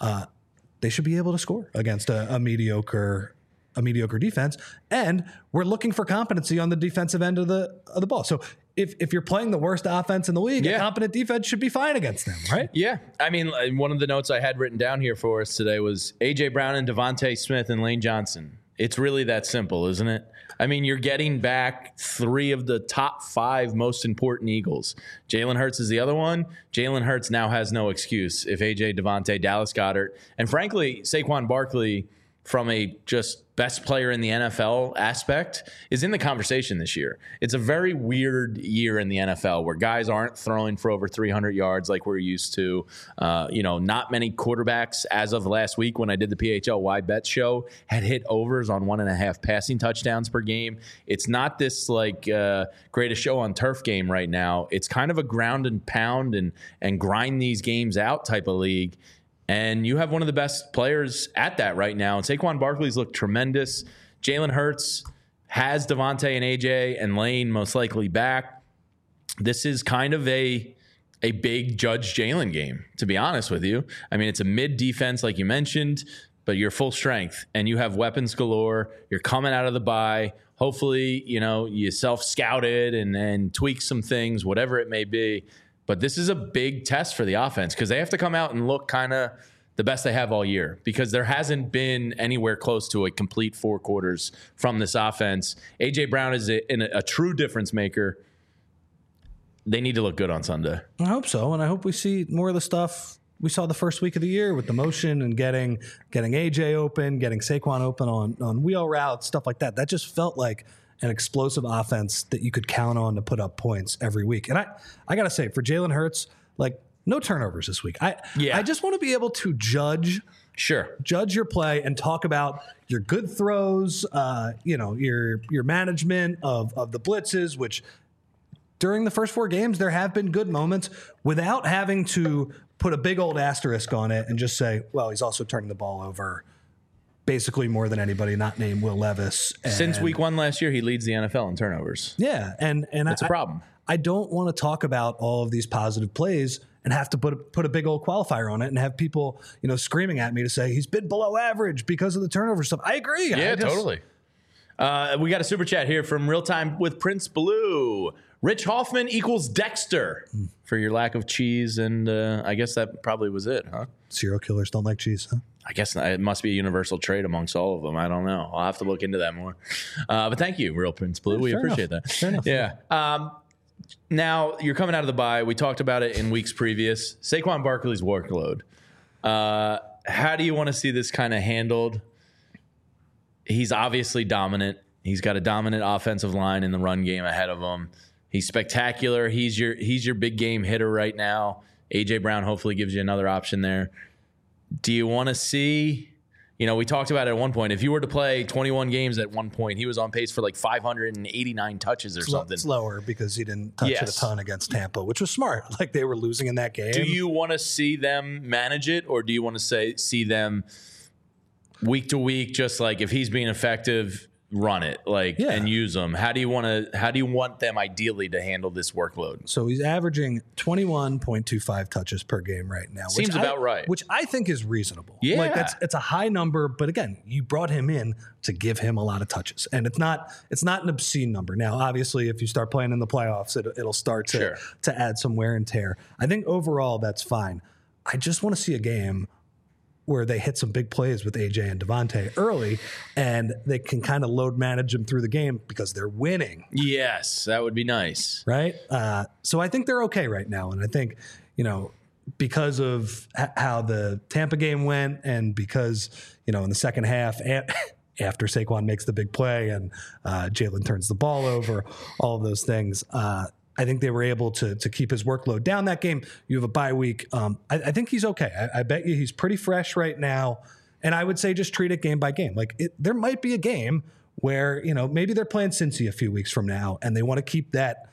they should be able to score against a mediocre defense, and we're looking for competency on the defensive end of the ball. So if you're playing the worst offense in the league, a competent defense should be fine against them, right? Yeah. I mean, one of the notes I had written down here for us today was A.J. Brown and Devontae Smith and Lane Johnson. It's really that simple, isn't it? I mean, you're getting back 3 of the top 5 most important Eagles. Jalen Hurts is the other one. Jalen Hurts now has no excuse if A.J., Devontae, Dallas Goedert, and frankly, Saquon Barkley, from a just best player in the NFL aspect, is in the conversation this year. It's a very weird year in the NFL where guys aren't throwing for over 300 yards like we're used to. Not many quarterbacks as of last week when I did the PHLY Bet show had hit overs on 1.5 passing touchdowns per game. It's not this like greatest show on turf game right now. It's kind of a ground and pound and grind these games out type of league. And you have one of the best players at that right now. And Saquon Barkley's looked tremendous. Jalen Hurts has Devontae and AJ and Lane most likely back. This is kind of a big Judge Jalen game, to be honest with you. I mean, it's a mid defense, like you mentioned, but you're full strength and you have weapons galore. You're coming out of the bye. Hopefully, you self-scouted and then tweak some things, whatever it may be. But this is a big test for the offense because they have to come out and look kind of the best they have all year because there hasn't been anywhere close to a complete 4 quarters from this offense. A.J. Brown is a true difference maker. They need to look good on Sunday. I hope so, and I hope we see more of the stuff we saw the first week of the year with the motion and getting A.J. open, getting Saquon open on wheel routes, stuff like that. That just felt like an explosive offense that you could count on to put up points every week. And I got to say, for Jalen Hurts, like, no turnovers this week. I just want to be able to judge your play and talk about your good throws, your management of the blitzes, which during the first 4 games, there have been good moments without having to put a big old asterisk on it and just say, well, he's also turning the ball over basically more than anybody not named Will Levis. Since week 1 last year, he leads the NFL in turnovers. Yeah, and that's a problem. I don't want to talk about all of these positive plays and have to put a big old qualifier on it and have people, screaming at me to say he's been below average because of the turnover stuff. I agree. Yeah, totally. We got a super chat here from Real Time with Prince Blue. Rich Hoffman equals Dexter for your lack of cheese, and I guess that probably was it, huh? Serial killers don't like cheese, huh? I guess it must be a universal trait amongst all of them. I don't know. I'll have to look into that more. But thank you, Real Prince Blue. We appreciate that. Fair enough. Yeah. Now you're coming out of the bye. We talked about it in weeks previous. Saquon Barkley's workload. How do you want to see this kind of handled? He's obviously dominant. He's got a dominant offensive line in the run game ahead of him. He's spectacular. He's your big game hitter right now. A.J. Brown hopefully gives you another option there. Do you want to see, we talked about it at one point. If you were to play 21 games at one point, he was on pace for like 589 touches or something. It's lower because he didn't touch it a ton against Tampa, which was smart. Like they were losing in that game. Do you want to see them manage it, or do you want to see them week to week, just like if he's being effective, run it and use them? How do you want them ideally to handle this workload? So he's averaging 21.25 touches per game right now. Seems about right. Which I think is reasonable. Yeah. It's a high number, but again, you brought him in to give him a lot of touches. And it's not an obscene number. Now, obviously, if you start playing in the playoffs, it'll start to add some wear and tear. I think overall that's fine. I just want to see a game where they hit some big plays with AJ and Devontae early, and they can kind of load manage them through the game because they're winning. Yes, that would be nice. Right? So I think they're okay right now. And I think, because of how the Tampa game went and because, in the second half, after Saquon makes the big play and Jalen turns the ball over, all of those things, I think they were able to keep his workload down that game. You have a bye week. I think he's okay. I bet you he's pretty fresh right now. And I would say just treat it game by game. There might be a game where, maybe they're playing Cincy a few weeks from now and they want to keep that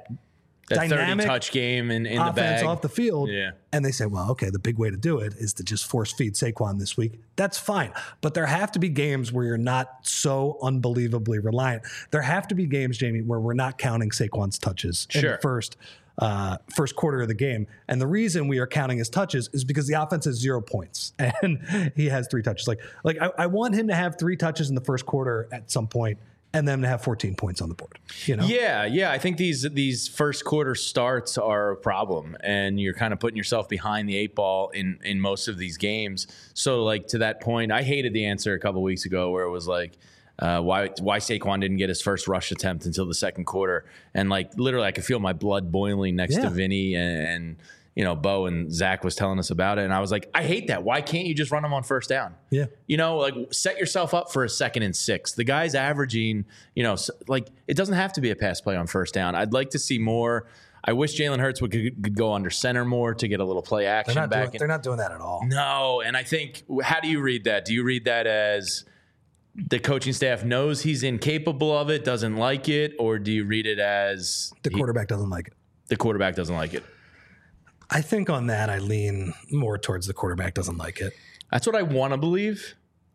dynamic 30-touch game in the bag off the field. Yeah. And they say, well, okay, the big way to do it is to just force feed Saquon this week. That's fine. But there have to be games where you're not so unbelievably reliant. There have to be games, Jamie, where we're not counting Saquon's touches in the first quarter of the game. And the reason we are counting his touches is because the offense has 0 points and he has 3 touches. I want him to have 3 touches in the first quarter at some point, and then to have 14 points on the board. Yeah. I think these first quarter starts are a problem, and you're kind of putting yourself behind the 8 ball in most of these games. So, to that point, I hated the answer a couple weeks ago where it was why Saquon didn't get his first rush attempt until the second quarter, and literally I could feel my blood boiling next to Vinny and Bo and Zach was telling us about it. And I was like, I hate that. Why can't you just run them on first down? Yeah. Set yourself up for a 2nd and 6. The guy's averaging, it doesn't have to be a pass play on first down. I'd like to see more. I wish Jalen Hurts could go under center more to get a little play action back. They're not doing that at all. No. And I think, how do you read that? Do you read that as the coaching staff knows he's incapable of it, doesn't like it? Or do you read it as the quarterback doesn't like it? The quarterback doesn't like it. I think on that, I lean more towards the quarterback doesn't like it. That's what I want to believe.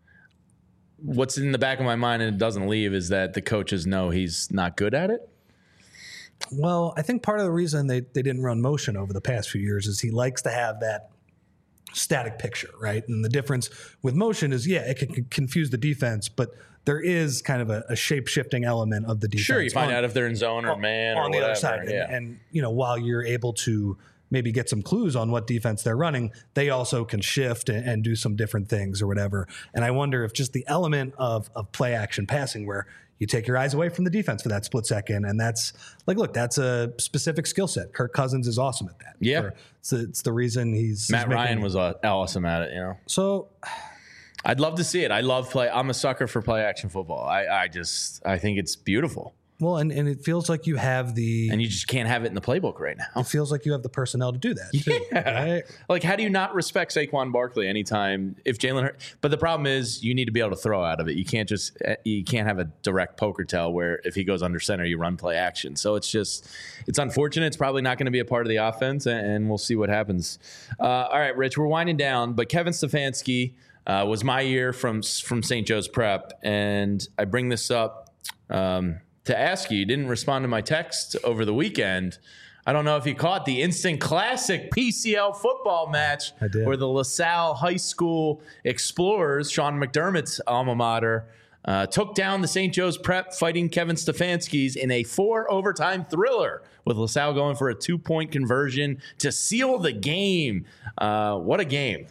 What's in the back of my mind and it doesn't leave is that the coaches know he's not good at it. Well, I think part of the reason they didn't run motion over the past few years is he likes to have that static picture, right? And the difference with motion is, it can confuse the defense, but there is kind of a shape-shifting element of the defense. Sure, you find out if they're in zone or man or on the whatever. other side. And while you're able to maybe get some clues on what defense they're running, they also can shift and do some different things or whatever. And I wonder if just the element of play action passing where you take your eyes away from the defense for that split second. And that's that's a specific skill set. Kirk Cousins is awesome at that. Yeah. It's the reason Matt Ryan was awesome at it, So I'd love to see it. I'm a sucker for play action football. I think it's beautiful. Well, and it feels like you have and you just can't have it in the playbook right now. It feels like you have the personnel to do that. Too, right? How do you not respect Saquon Barkley anytime if Jalen Hurts? But the problem is you need to be able to throw out of it. You can't have a direct poker tell where if he goes under center, you run play action. So it's unfortunate. It's probably not going to be a part of the offense, and we'll see what happens. All right, Rich, we're winding down, but Kevin Stefanski was my year from St. Joe's Prep, and I bring this up to ask you didn't respond to my text over the weekend. I don't know if you caught the instant classic PCL football match where the LaSalle High School Explorers, Sean McDermott's alma mater, took down the St. Joe's Prep Fighting Kevin Stefanski's in a 4-overtime thriller with LaSalle going for a 2-point conversion to seal the game. What a game.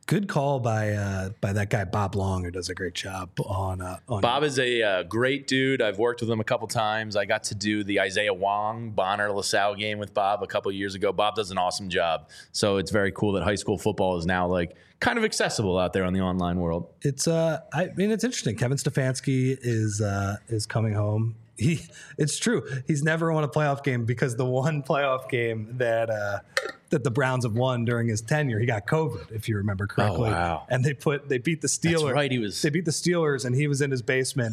Good call by that guy Bob Long, who does a great job on. Bob is a great dude. I've worked with him a couple times. I got to do the Isaiah Wong Bonner LaSalle game with Bob a couple years ago. Bob does an awesome job. So it's very cool that high school football is now like kind of accessible out there on the online world. It's it's interesting. Kevin Stefanski is coming home. It's true. He's never won a playoff game because the one playoff game that the Browns have won during his tenure, he got COVID, if you remember correctly. Oh, wow. And they beat the Steelers. That's right. They beat the Steelers, and he was in his basement.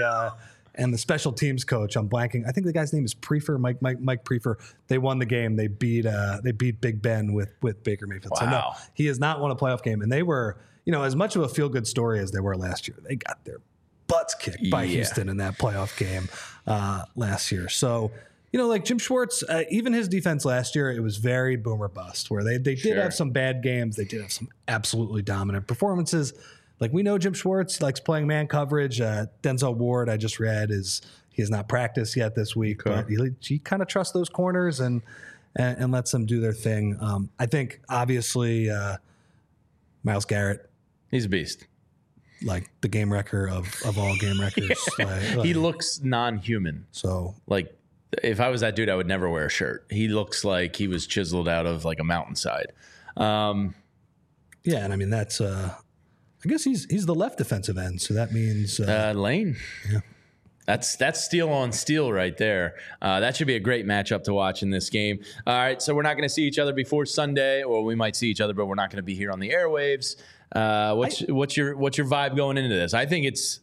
And the special teams coach, I'm blanking. I think the guy's name is Prefer, Mike Prefer. They won the game. They beat Big Ben with Baker Mayfield. Wow. So no, he has not won a playoff game. And they were, as much of a feel good story as they were last year, they got their butts kicked by Houston in that playoff game last year. So, like Jim Schwartz, even his defense last year, it was very boom or bust, where they did have some bad games. They did have some absolutely dominant performances. Like, we know Jim Schwartz likes playing man coverage. Denzel Ward, I just read, he has not practiced yet this week, but he kind of trusts those corners and lets them do their thing. I think, obviously, Myles Garrett. He's a beast. Like the game wrecker of all game wreckers. He looks non-human. So, like, if I was that dude, I would never wear a shirt. He looks like he was chiseled out of like a mountainside. And I mean that's. I guess he's the left defensive end, so that means Lane. Yeah, that's steel on steel right there. That should be a great matchup to watch in this game. All right, so we're not going to see each other before Sunday, or we might see each other, but we're not going to be here on the airwaves. What's your vibe going into this? I think it's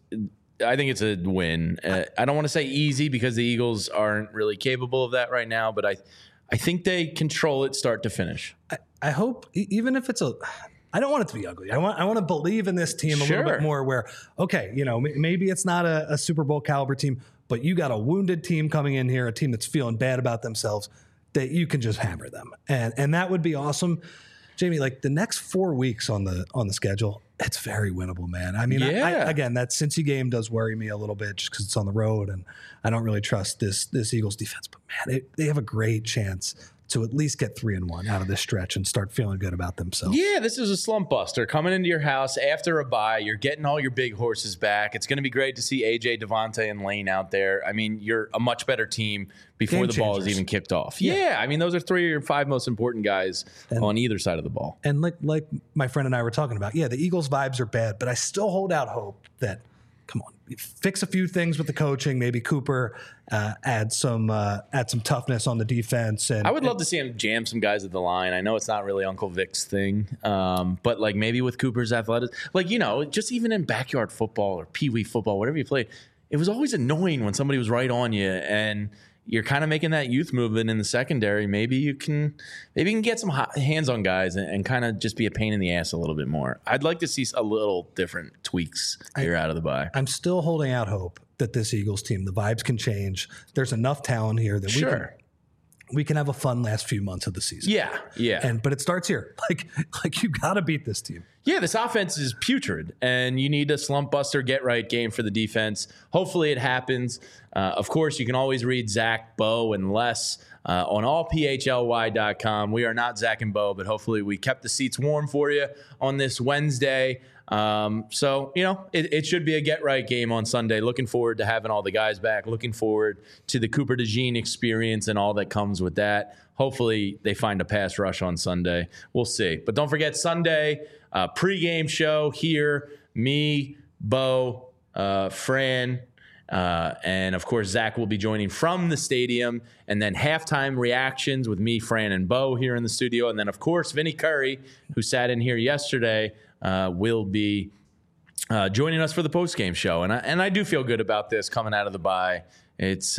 a win. I don't want to say easy because the Eagles aren't really capable of that right now, but I think they control it start to finish. I hope, even if it's I don't want it to be ugly. I want to believe in this team a little bit more where, okay, maybe it's not a Super Bowl caliber team, but you got a wounded team coming in here, a team that's feeling bad about themselves, that you can just hammer them. And that would be awesome. Jamie, like the next 4 weeks on the schedule, it's very winnable, man. I mean, again, that Cincy game does worry me a little bit just because it's on the road, and I don't really trust this Eagles defense. But man, they have a great chance to at least get 3-1 out of this stretch and start feeling good about themselves. Yeah, this is a slump buster coming into your house after a bye. You're getting all your big horses back. It's going to be great to see AJ, Devontae, and Lane out there. I mean, you're a much better team before the ball is even kicked off. Yeah, I mean, those are 3 or 5 most important guys on either side of the ball. And like my friend and I were talking about, the Eagles vibes are bad, but I still hold out hope that, come on, fix a few things with the coaching. Maybe Cooper add some toughness on the defense. And I would love to see him jam some guys at the line. I know it's not really Uncle Vic's thing, but like maybe with Cooper's athleticism, like just even in backyard football or pee wee football, whatever you played, it was always annoying when somebody was right on you and you're kind of making that youth movement in the secondary. Maybe you can get some hands on guys and kind of just be a pain in the ass a little bit more. I'd like to see a little different tweaks here out of the bye. I'm still holding out hope that this Eagles team, the vibes can change. There's enough talent here that we can have a fun last few months of the season. Yeah. But it starts here. Like you got to beat this team. Yeah, this offense is putrid, and you need a slump buster, get right game for the defense. Hopefully it happens. Of course, you can always read Zach, Bo, and Les on allphly.com. We are not Zach and Bo, but hopefully we kept the seats warm for you on this Wednesday. So, it should be a get right game on Sunday. Looking forward to having all the guys back. Looking forward to the Cooper DeJean experience and all that comes with that. Hopefully they find a pass rush on Sunday. We'll see. But don't forget Sunday, pregame show here. Me, Bo, Fran, and of course, Zach will be joining from the stadium, and then halftime reactions with me, Fran, and Bo here in the studio. And then, of course, Vinny Curry, who sat in here yesterday, will be joining us for the postgame show. And I do feel good about this coming out of the bye. It's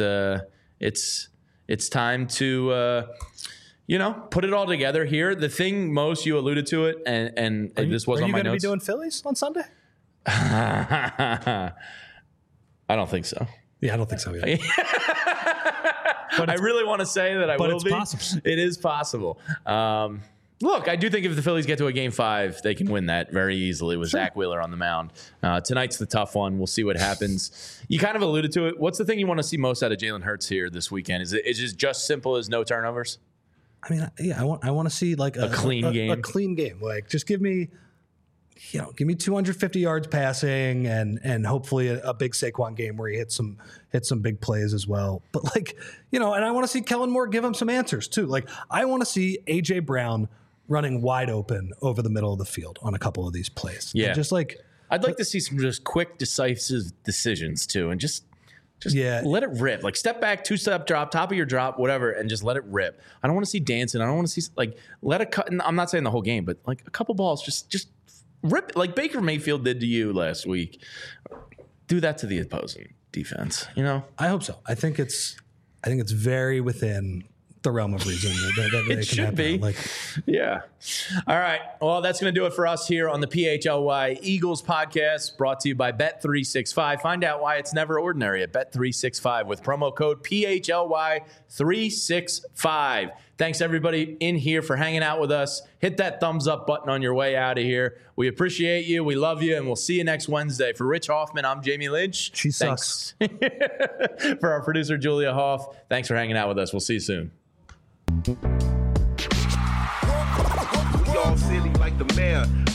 time to put it all together here. The thing most, you alluded to it, and this was on my notes. Are you going to be doing Phillies on Sunday? I don't think so. Yeah, I don't think so either. But I really want to say that I will be. But it's possible. It is possible. Look, I do think if the Phillies get to a Game 5, they can win that very easily with Zach Wheeler on the mound. Tonight's the tough one. We'll see what happens. You kind of alluded to it. What's the thing you want to see most out of Jalen Hurts here this weekend? Is it just simple as no turnovers? I mean, I want to see like a clean game. A clean game. Like, just give me give me 250 yards passing and hopefully a big Saquon game where he hits some big plays as well. But and I want to see Kellen Moore give him some answers too. I want to see AJ Brown running wide open over the middle of the field on a couple of these plays. Yeah. And just I'd like to see some just quick, decisive decisions too, and just let it rip. Step back, 2-step drop, top of your drop, whatever, and just let it rip. I don't want to see dancing. I don't want to see let it cut. I'm not saying the whole game, but a couple balls, just rip like Baker Mayfield did to you last week. Do that to the opposing defense. I hope so. I think it's very within the realm of reason that it should be. Yeah. All right. Well, that's going to do it for us here on the PHLY Eagles podcast, brought to you by Bet365. Find out why it's never ordinary at Bet365 with promo code PHLY365. Thanks everybody in here for hanging out with us. Hit that thumbs up button on your way out of here. We appreciate you. We love you. And we'll see you next Wednesday. For Rich Hoffman, I'm Jamie Lynch. She sucks. For our producer, Julia Hoff, thanks for hanging out with us. We'll see you soon. We all silly like the mayor.